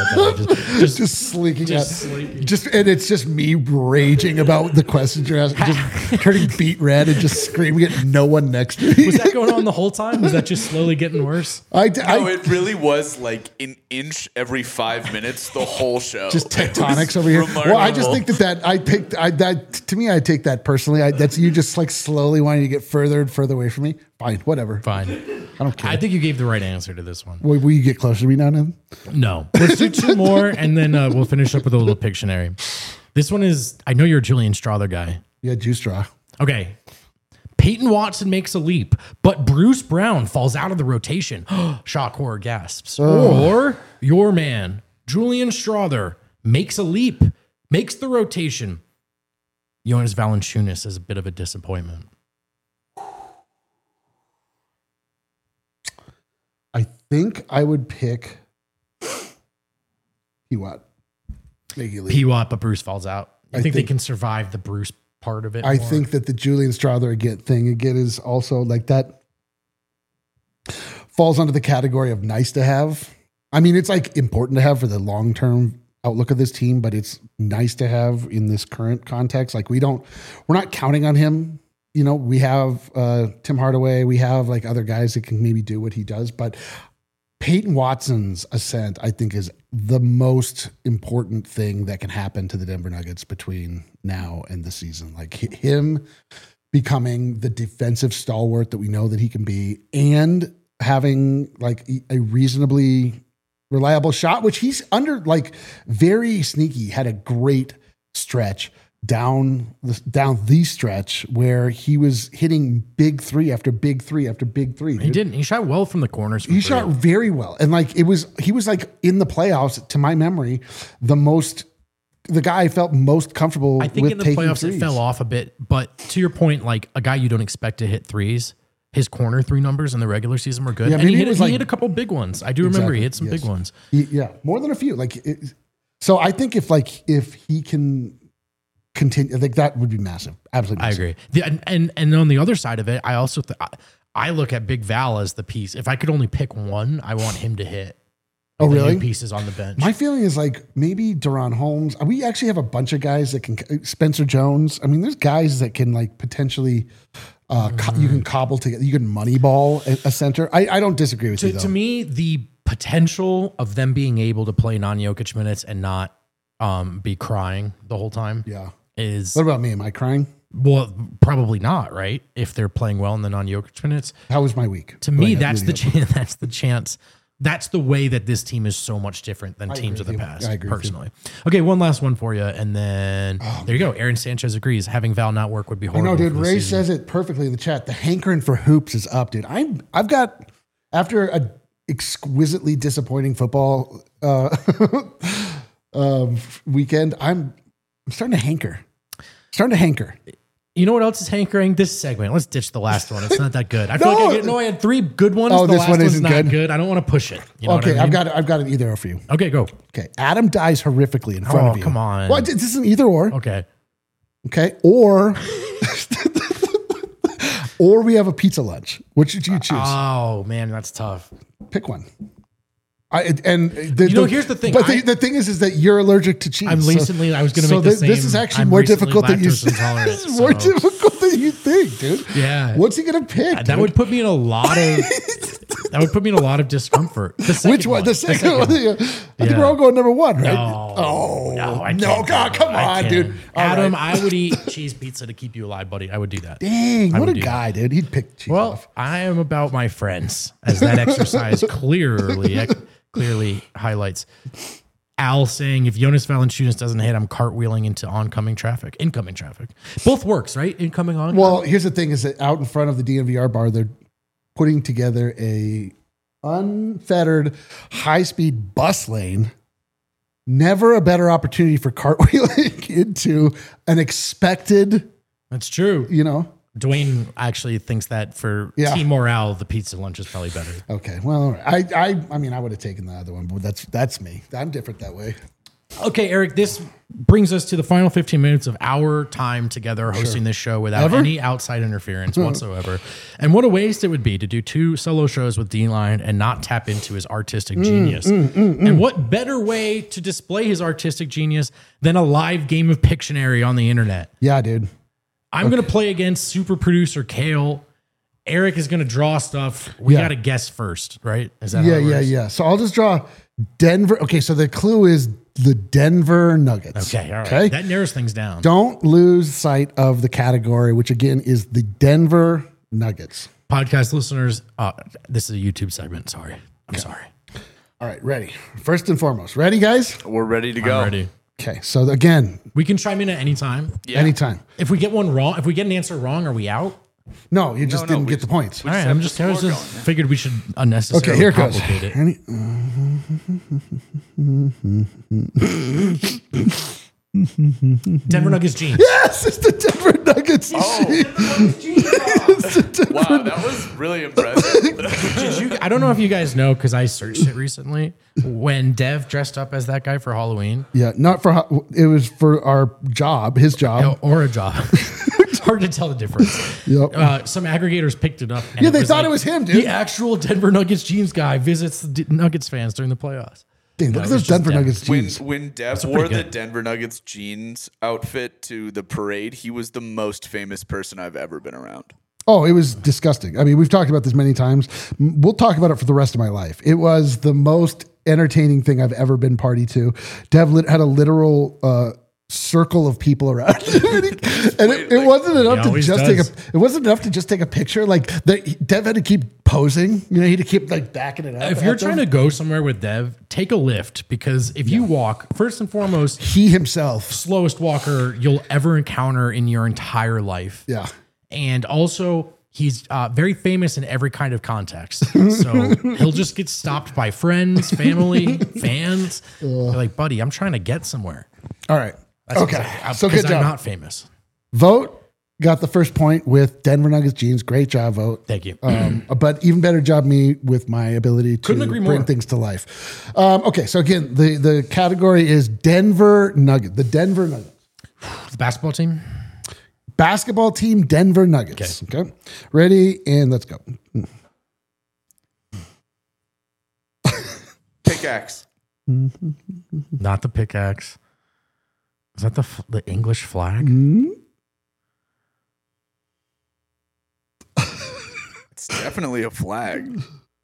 just sleeking out. And it's just me raging about the questions you're asking. Just turning beet red and just screaming at no one next to me. Was that going on the whole time? Was that just slowly getting worse? It really was like an inch every 5 minutes the whole show. Just tectonics over here. Remarkable. Well, I just think to me, I take that personally. That's you just like slowly wanting to get further and further away from me. Fine, whatever. Fine. I don't care. I think you gave the right answer to this one. Will you get closer to me now, then? No. Let's do 2 more, and then we'll finish up with a little Pictionary. This one is, I know you're a Julian Strother guy. Yeah, Juice Straw. Okay. Peyton Watson makes a leap, but Bruce Brown falls out of the rotation. Shock, horror, gasps. Or your man, Julian Strother makes a leap, makes the rotation. Jonas Valanciunas is a bit of a disappointment. I think I would pick P-Watt. P-Watt, but Bruce falls out. I think they can survive the Bruce part of it. I think that the Julian Strother thing is also like that falls under the category of nice to have. I mean, it's like important to have for the long-term outlook of this team, but it's nice to have in this current context. Like we're not counting on him. You know, we have Tim Hardaway, we have like other guys that can maybe do what he does, but Peyton Watson's ascent, I think, is the most important thing that can happen to the Denver Nuggets between now and the season. Like him becoming the defensive stalwart that we know that he can be, and having like a reasonably reliable shot, which he's under like very sneaky, had a great stretch down the stretch where he was hitting big three after big three after big three. He didn't. He shot well from the corners. He shot very well. And like he was like in the playoffs, to my memory, the guy I felt most comfortable with. I think in the playoffs threes. It fell off a bit, but to your point, like a guy you don't expect to hit threes, his corner three numbers in the regular season were good. Yeah, and he hit a couple big ones. I do remember he hit some big ones. More than a few. So I think if he can continue, I think that would be massive. Absolutely massive. I agree. And on the other side of it, I also I look at Big Val as the piece. If I could only pick one, I want him to hit. Oh, really? Pieces on the bench. My feeling is like maybe Deron Holmes. We actually have a bunch of guys that can. Spencer Jones. I mean, there's guys that can like potentially. You can cobble together. You can moneyball a center. I don't disagree with you though. To me, the potential of them being able to play non-Jokic minutes and not be crying the whole time. Yeah. Is what about me? Am I crying? Well, probably not, right? If they're playing well in the non-Jokic minutes. How was my week? To me, that's the chance. That's the chance. That's the way that this team is so much different than teams of the past. I agree personally. Okay, one last one for you, and then there you go. Aaron Sanchez agrees. Having Val not work would be horrible. I know, dude. Ray says it perfectly in the chat. The hankering for hoops is up, dude. I've got, after a exquisitely disappointing football weekend, I'm starting to hanker. You know what else is hankering? This segment. Let's ditch the last one. It's not that good. I feel like I had three good ones. Oh, the this last one one's isn't not good. I don't want to push it. You know okay, what I mean? I've got an either or for you. Okay, go. Okay, Adam dies horrifically in front of you. Come on. Well, this is an either or. Okay, or or we have a pizza lunch. Which should you choose? Oh man, that's tough. Pick one. Here's the thing. But the thing is that you're allergic to cheese. I was going to make the same. This is actually more difficult than you think. This is more difficult than you think, dude. Yeah. What's he going to pick? That would put me in a lot of. That would put me in a lot of discomfort. Which one? The second one. I think we're all going number one, right? No, God, come on, dude. Adam, I would eat cheese pizza to keep you alive, buddy. I would do that. Dang, what a guy, dude. He'd pick cheese off. I am about my friends, as that exercise clearly highlights. Al saying, if Jonas Valanciunas doesn't hit, I'm cartwheeling into incoming traffic. Both works, right? Incoming, oncoming. Well, here's the thing: is that out in front of the DNVR bar, they're putting together a unfettered high-speed bus lane. Never a better opportunity for cartwheeling into an expected. That's true. You know, Dwayne actually thinks that for team morale, the pizza lunch is probably better. Okay, well, I mean, I would have taken the other one, but that's me. I'm different that way. Okay, Eric, this brings us to the final 15 minutes of our time together hosting this show without any outside interference whatsoever. And what a waste it would be to do 2 solo shows with D-Line and not tap into his artistic genius. And what better way to display his artistic genius than a live game of Pictionary on the internet? Yeah, dude. I'm going to play against super producer Kale. Eric is going to draw stuff. We got to guess first, right? Is that how it works? Yeah. So I'll just draw Denver. Okay, so the clue is the Denver Nuggets. Okay, all right. Okay? That narrows things down. Don't lose sight of the category, which again is the Denver Nuggets. Podcast listeners, this is a YouTube segment. Sorry. I'm sorry. All right, ready. First and foremost, ready, guys? We're ready to go. I'm ready. Okay, so again, we can chime in at any time. Yeah. Anytime. If we get one wrong, if we get an answer wrong, are we out? No, you just No, didn't we get the points. All right, have I'm the just score going. figured we should unnecessarily Okay, here it goes. complicate it. Denver Nuggets jeans. Yes, it's the Denver Nuggets. Wow, that was really impressive. Did you? I don't know if you guys know because I searched it recently. When Dev dressed up as that guy for Halloween, Yeah, not for it was for our job, his job. or a job. It's hard to tell the difference. Yep. Some aggregators picked it up. And Yeah, they thought it was him, dude. The actual Denver Nuggets jeans guy visits the Nuggets fans during the playoffs. Dang, look No, at it those was just Denver Denver. Nuggets jeans. When Dev pretty wore the good. Denver Nuggets jeans outfit to the parade, he was the most famous person I've ever been around. Oh, it was disgusting. I mean, we've talked about this many times. We'll talk about it for the rest of my life. It was the most entertaining thing I've ever been party to. Dev had a literal circle of people around him. And it wasn't enough to always just does. it wasn't enough to just take a picture. Like Dev had to keep posing. You know, he had to keep like backing it up. If you're trying to go somewhere with Dev, take a lift because if you walk, first and foremost, he himself. slowest walker you'll ever encounter in your entire life. Yeah. And also, he's very famous in every kind of context. So he'll just get stopped by friends, family, fans. They're like, buddy, I'm trying to get somewhere. All right. That's Okay. So good I'm job. not famous. Vote got the first point with Denver Nuggets jeans. Great job, Vote. Thank you. But even better job me with my ability to Couldn't agree bring more. things to life. Okay, so again, the category is Denver Nuggets. The Denver Nuggets. The basketball team. Basketball team, Denver Nuggets. Okay. Ready, and let's go. Pickaxe. Not the pickaxe. Is that the English flag? It's definitely a flag.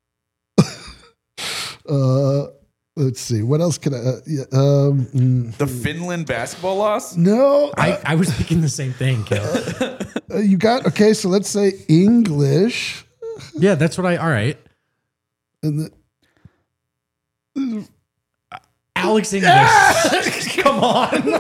Let's see. What else can I? The Finland basketball loss? No. I was thinking the same thing, Kel. You got, okay, so let's say English. Yeah, that's what all right. And Alex English. Come on.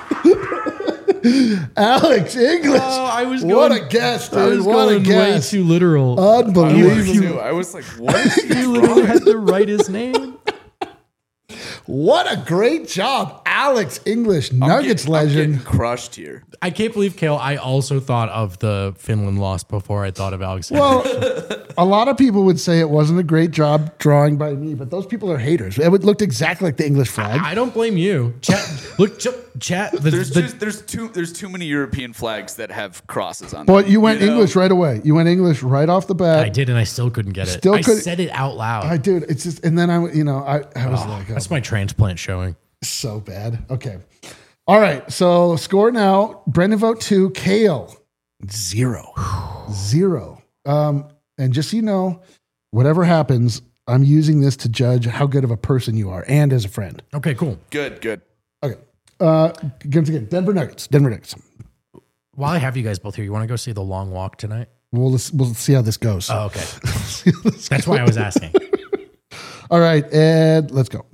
Alex English. Oh, I was What going- a guess, I dude. was What a going way guess. too literal. Unbelievable. I was like, what is he You literally had to write his name. What a great job. Alex English, Nuggets I'm legend. getting crushed here. I can't believe, Kale, I also thought of the Finland loss before I thought of Alex English. Well, a lot of people would say it wasn't a great job drawing by me, but those people are haters. It looked exactly like the English flag. I don't blame you. Chat, look, chat. There's too many European flags that have crosses on them. But you went know? English right away. You went English right off the bat. I did, and I still couldn't get it. Still I couldn't- said it out loud. I did. It's just, and then I was like, That's my transplant showing. so bad. Okay. All right. So score now. Brendan Vote 2, Kale 0. 0. And just so you know, whatever happens, I'm using this to judge how good of a person you are and as a friend. Okay, cool. Good. Okay. Again, Denver Nuggets. Denver Nuggets. While I have you guys both here, you want to go see the long walk tonight? We'll see how this goes. Oh, okay. That's why I was asking. All right, and let's go.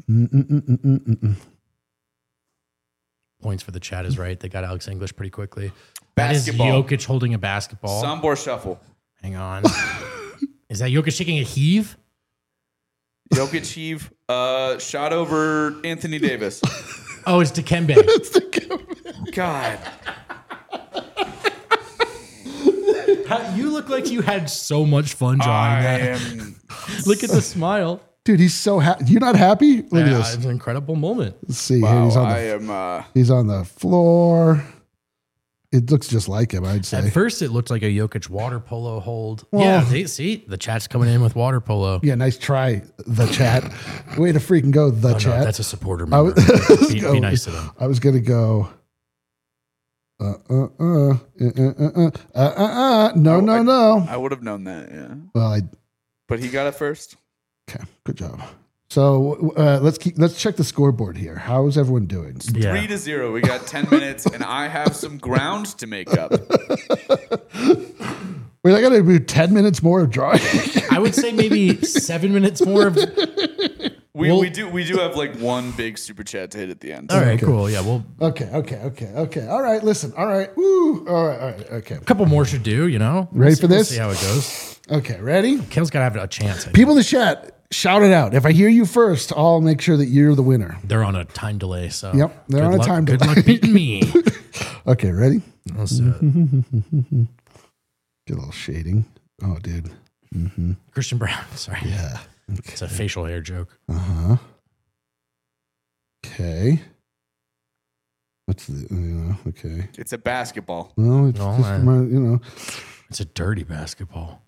Points for the chat is right. They got Alex English pretty quickly. Basketball. That is Jokic holding a basketball. Sombor shuffle. Hang on. Is that Jokic taking a heave? Jokic heave. Shot over Anthony Davis. Oh, it's Dikembe. God. You look like you had so much fun drawing I that. am. Look at the smile. Dude, he's so happy. You're not happy? Look at Yeah, this. it's an incredible moment. Let's see. Here, Wow, he's on I the am. he's on the floor. It looks just like him, I'd say. At first, it looked like a Jokic water polo hold. Well- Yeah, see, the chat's coming in with water polo. Yeah, nice try, the chat. Way to freaking go, the Oh, chat. no, that's a supporter I member. was- Be nice to them. I was gonna go. No. I would have known that. Yeah. Well, But he got it first. okay, good job. So let's check the scoreboard here. How is everyone doing? Yeah. 3-0. We got 10 minutes, and I have some ground to make up. Wait, I got to do 10 minutes more of drawing. I would say maybe 7 minutes more of. We do have like one big super chat to hit at the end. All right, cool. Yeah, well, Okay. All right, listen. All right. Woo. All right. Okay. a couple more should do, you know? Ready for We'll this? see how it goes. Okay, ready? Kale's got to have a chance. I think. People in the chat, shout it out. If I hear you first, I'll make sure that you're the winner. They're on a time delay, so. Yep, they're on a time Good delay. luck beating me. Okay, ready? Let's do it. Get a little shading. Oh, dude. Christian Brown. Sorry. Yeah. It's a facial hair joke. Okay. What's the, okay. It's a basketball. No, it's No, just man. my, It's a dirty basketball.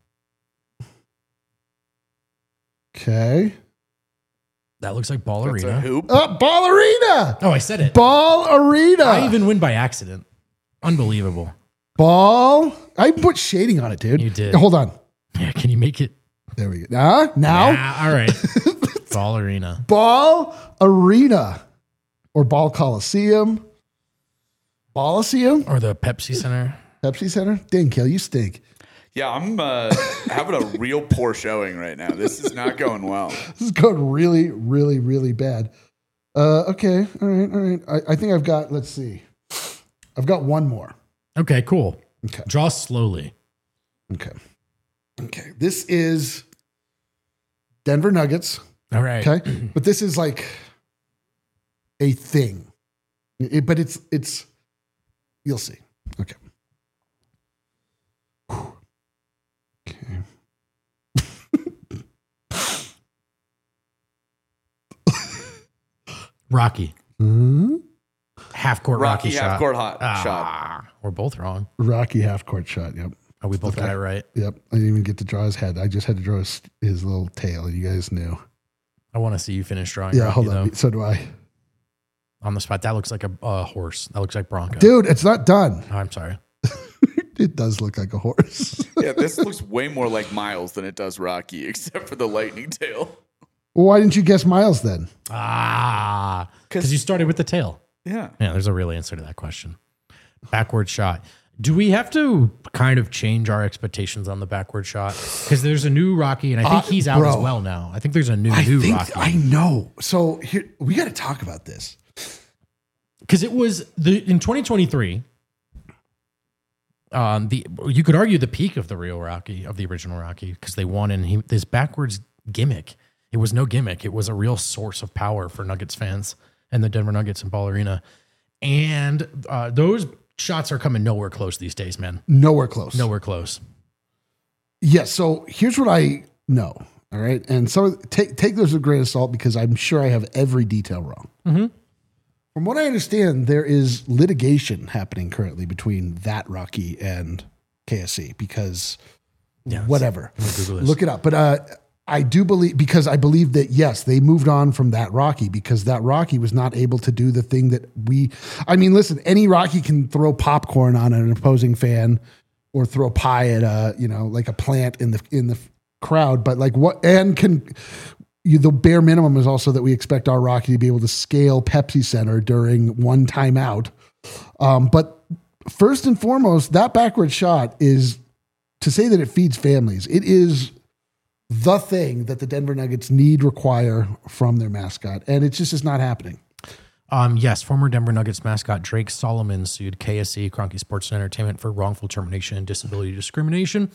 Okay. That looks like That's a ballerina. hoop. Ball arena. Oh, I said it. Ball arena. I even win by accident. Unbelievable. Ball. I put shading on it, dude. You did. Hold on. Yeah, can you make it? There we go. Now. All right. Ballerina. Ball arena or ball coliseum. Ballicium. Or the Pepsi Center. Pepsi Center. Dang, Kale, you stink. Yeah, I'm having a real poor showing right now. This is not going well. This is going really, really, really bad. Okay. All right. I think I've got, let's see. I've got one more. Okay, cool. Okay. Draw slowly. Okay. This is Denver Nuggets. All right. Okay. But this is like a thing. But it's, you'll see. Okay. Whew. Okay. Rocky. Hmm? Half court Rocky, shot. half court shot. We're both wrong. Rocky half court shot. Yep. Oh, we both got it right. Yep. I didn't even get to draw his head. I just had to draw his little tail. You guys knew. I want to see you finish drawing. Yeah. Rocky, Hold on. though. So do I. On the spot. That looks like a horse. That looks like Bronco. Dude, it's not done. Oh, I'm sorry. It does look like a horse. Yeah, this looks way more like Miles than it does Rocky, except for the lightning tail. Well, why didn't you guess Miles then? Because you started with the tail. Yeah. Yeah, there's a real answer to that question. Backward shot. Do we have to kind of change our expectations on the backward shot? Because there's a new Rocky, and I think he's out bro. as well now. I think there's a new Rocky. I know. So here we got to talk about this. Because it was in 2023. You could argue the peak of the real Rocky, of the original Rocky, because they won, and this backwards gimmick. It was no gimmick. It was a real source of power for Nuggets fans and the Denver Nuggets and Ball Arena. And those shots are coming nowhere close these days, man. Nowhere close. Nowhere close. Yeah. So here's what I know. All right. And so take those with a grain of salt because I'm sure I have every detail wrong. Mm-hmm. From what I understand, there is litigation happening currently between that Rocky and KSC because whatever. Look it up. But I do believe, because I believe that, yes, they moved on from that Rocky because that Rocky was not able to do the thing that listen, any Rocky can throw popcorn on an opposing fan or throw pie at like a plant in the crowd. But like the bare minimum is also that we expect our Rocky to be able to scale Pepsi Center during one timeout. But first and foremost, that backward shot is to say that it feeds families. It is the thing that the Denver Nuggets require from their mascot. And it just is not happening. Yes, former Denver Nuggets mascot Drake Solomon sued KSC, Kroenke Sports and Entertainment, for wrongful termination and disability discrimination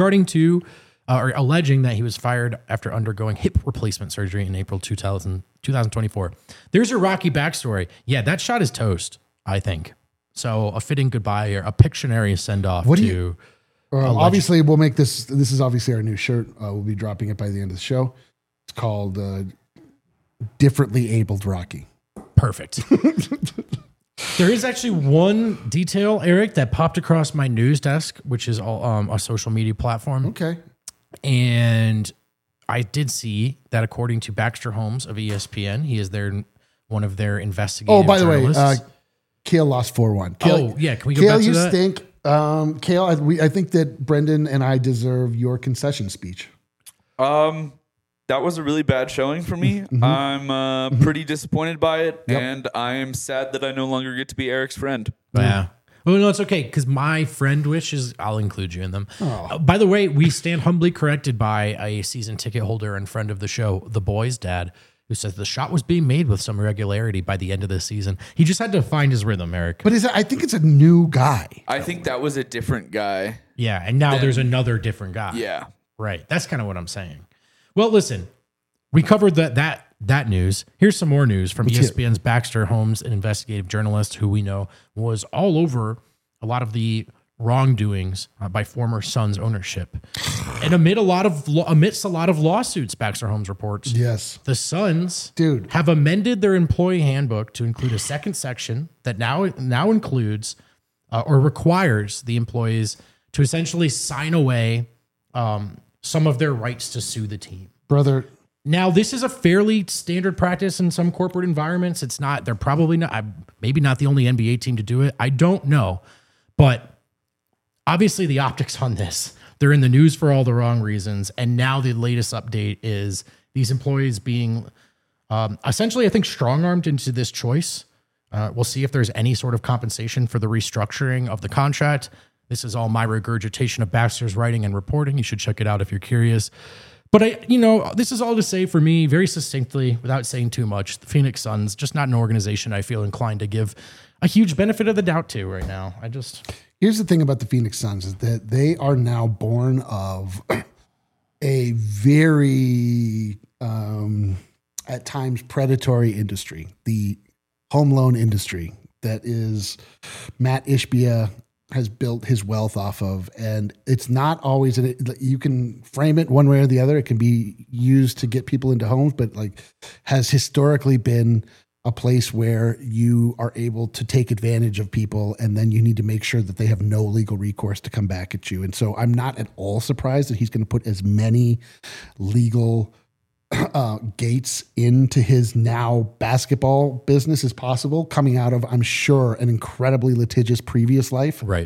alleging that he was fired after undergoing hip replacement surgery in April 2024. There's your Rocky backstory. Yeah, that shot is toast, I think. So a fitting goodbye or a Pictionary send-off to... obviously, we'll make this is obviously our new shirt. We'll be dropping it by the end of the show. It's called Differently Abled Rocky. Perfect. There is actually one detail, Eric, that popped across my news desk, which is all a social media platform. Okay. And I did see that according to Baxter Holmes of ESPN, he is one of their investigative journalists. The way, Kale lost 4-1. Can we go Kale, back to that? you stink. Kale, I think that Brendan and I deserve your concession speech. That was a really bad showing for me. Mm-hmm. I'm pretty disappointed by it, and I am sad that I no longer get to be Eric's friend. Yeah. Well, no, it's okay because my friend wishes I'll include you in them. By the way, we stand humbly corrected by a season ticket holder and friend of the show, The Boys' dad, who says the shot was being made with some regularity by the end of the season. He just had to find his rhythm, Eric. But I think it's a new guy. I think that was a different guy. Yeah, and now there's another different guy. Yeah. Right. That's kind of what I'm saying. Well, listen, we covered that news. Here's some more news from ESPN's Baxter Holmes, an investigative journalist who we know was all over a lot of the wrongdoings by former Suns ownership. And amidst a lot of lawsuits, Baxter Holmes reports, Yes. the Suns Dude. have amended their employee handbook to include a second section that now includes or requires the employees to essentially sign away some of their rights to sue the team. Brother, Now, this is a fairly standard practice in some corporate environments. It's not, they're probably not, maybe not the only NBA team to do it. I don't know. But obviously, the optics on this, they're in the news for all the wrong reasons. And now the latest update is these employees being essentially, I think, strong armed into this choice. We'll see if there's any sort of compensation for the restructuring of the contract. This is all my regurgitation of Baxter's writing and reporting. You should check it out if you're curious. But this is all to say for me, very succinctly, without saying too much, the Phoenix Suns, just not an organization I feel inclined to give a huge benefit of the doubt to right now. Here's the thing about the Phoenix Suns is that they are now born of a very, at times, predatory industry, the home loan industry that is Matt Ishbia has built his wealth off of. And it's not always, you can frame it one way or the other. It can be used to get people into homes, but has historically been a place where you are able to take advantage of people, and then you need to make sure that they have no legal recourse to come back at you. And so I'm not at all surprised that he's going to put as many legal gates into his now basketball business as possible, coming out of, I'm sure, an incredibly litigious previous life. Right.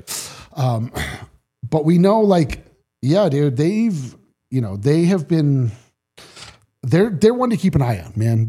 But we know, dude, they have been, they're one to keep an eye on, man.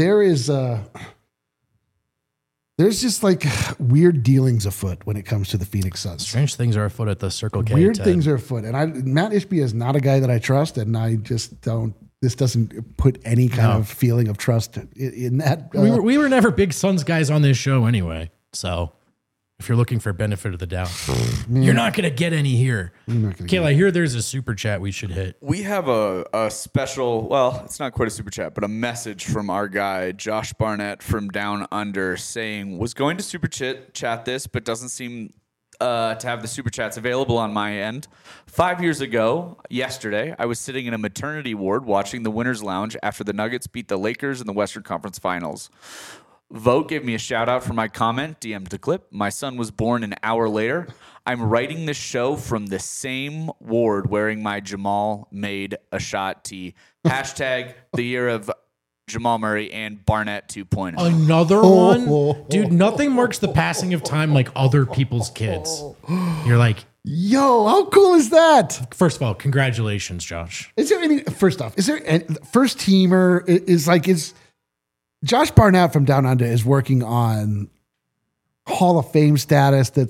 There's just weird dealings afoot when it comes to the Phoenix Suns. Strange things are afoot at the Circle K. Weird things are afoot. And Matt Ishbia is not a guy that I trust, and I just don't. This doesn't put any kind of feeling of trust in that. We were never big Suns guys on this show anyway. So if you're looking for benefit of the doubt, you're not going to get any here. Kayla, I hear there's a super chat we should hit. We have a special, well, it's not quite a super chat, but a message from our guy, Josh Barnett from Down Under, saying, was going to super chat this, but doesn't seem to have the super chats available on my end. 5 years ago, yesterday, I was sitting in a maternity ward watching the Winners Lounge after the Nuggets beat the Lakers in the Western Conference Finals. Vogt gave me a shout out for my comment, DM'd the clip. My son was born an hour later. I'm writing this show from the same ward wearing my Jamal made a shot tee. Hashtag the year of Jamal Murray and Barnett 2.0. Another one? Dude, nothing marks the passing of time like other people's kids. You're like, yo, how cool is that? First of all, congratulations, Josh. Is there any, first off, is there any first teamer is Josh Barnett from Down Under is working on Hall of Fame status that's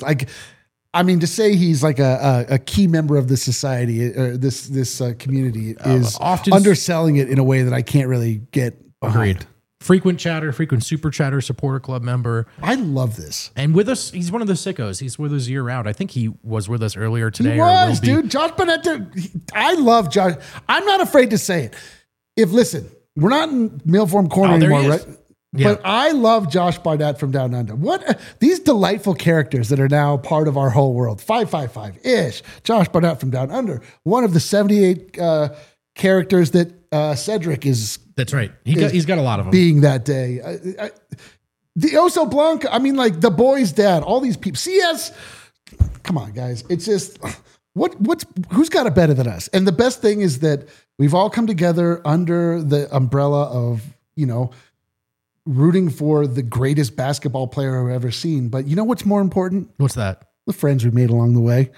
to say he's a key member of the society or this community is often underselling it in a way that I can't really get behind. Agreed. Frequent super chatter supporter club member. I love this. And with us, he's one of the sickos. He's with us year round. I think he was with us earlier today. He was, dude. Josh Barnett. I love Josh. I'm not afraid to say it. Listen, we're not in Mailform Corner anymore, right? Yeah. But I love Josh Barnett from Down Under. What these delightful characters that are now part of our whole world. 555-ish. Josh Barnett from Down Under. One of the 78 characters that Cedric is. That's right. He's got a lot of them. Being that day. The Oso Blanco. The boy's dad. All these people. CS. Come on, guys. It's just who's got it better than us? And the best thing is that we've all come together under the umbrella of, rooting for the greatest basketball player I've ever seen. But you know what's more important? What's that? The friends we made along the way.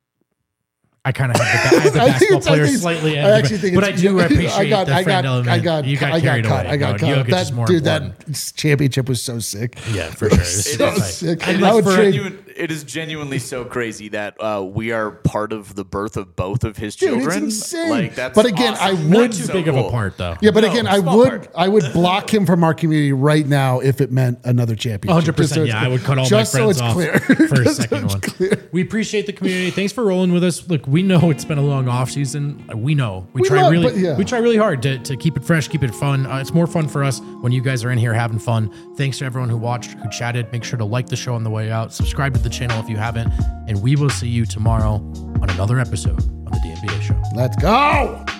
I kind of have the basketball player slightly, I actually think but I do appreciate the friend element. You got carried away. I got caught. That championship was so sick. Yeah, for sure. So sick. It it is genuinely so crazy that we are part of the birth of both of his Dude, children. it's insane. Like, that's But again, awesome. I would- Not That's too so big of cool. a part, though. Yeah, but No, again, I small would part. I would block him from our community right now if it meant another championship. 100%. Just so it's Yeah, clear. I would cut all Just my so friends it's off clear. for a Just so second it's one. clear. We appreciate the community. Thanks for rolling with us. Look, we know it's been a long off season. We know we try love- really but yeah. we try really hard to keep it fresh, keep it fun. It's more fun for us when you guys are in here having fun. Thanks to everyone who watched, who chatted. Make sure to like the show on the way out. Subscribe to the channel if you haven't, and we will see you tomorrow on another episode of the DNBA Show. Let's go.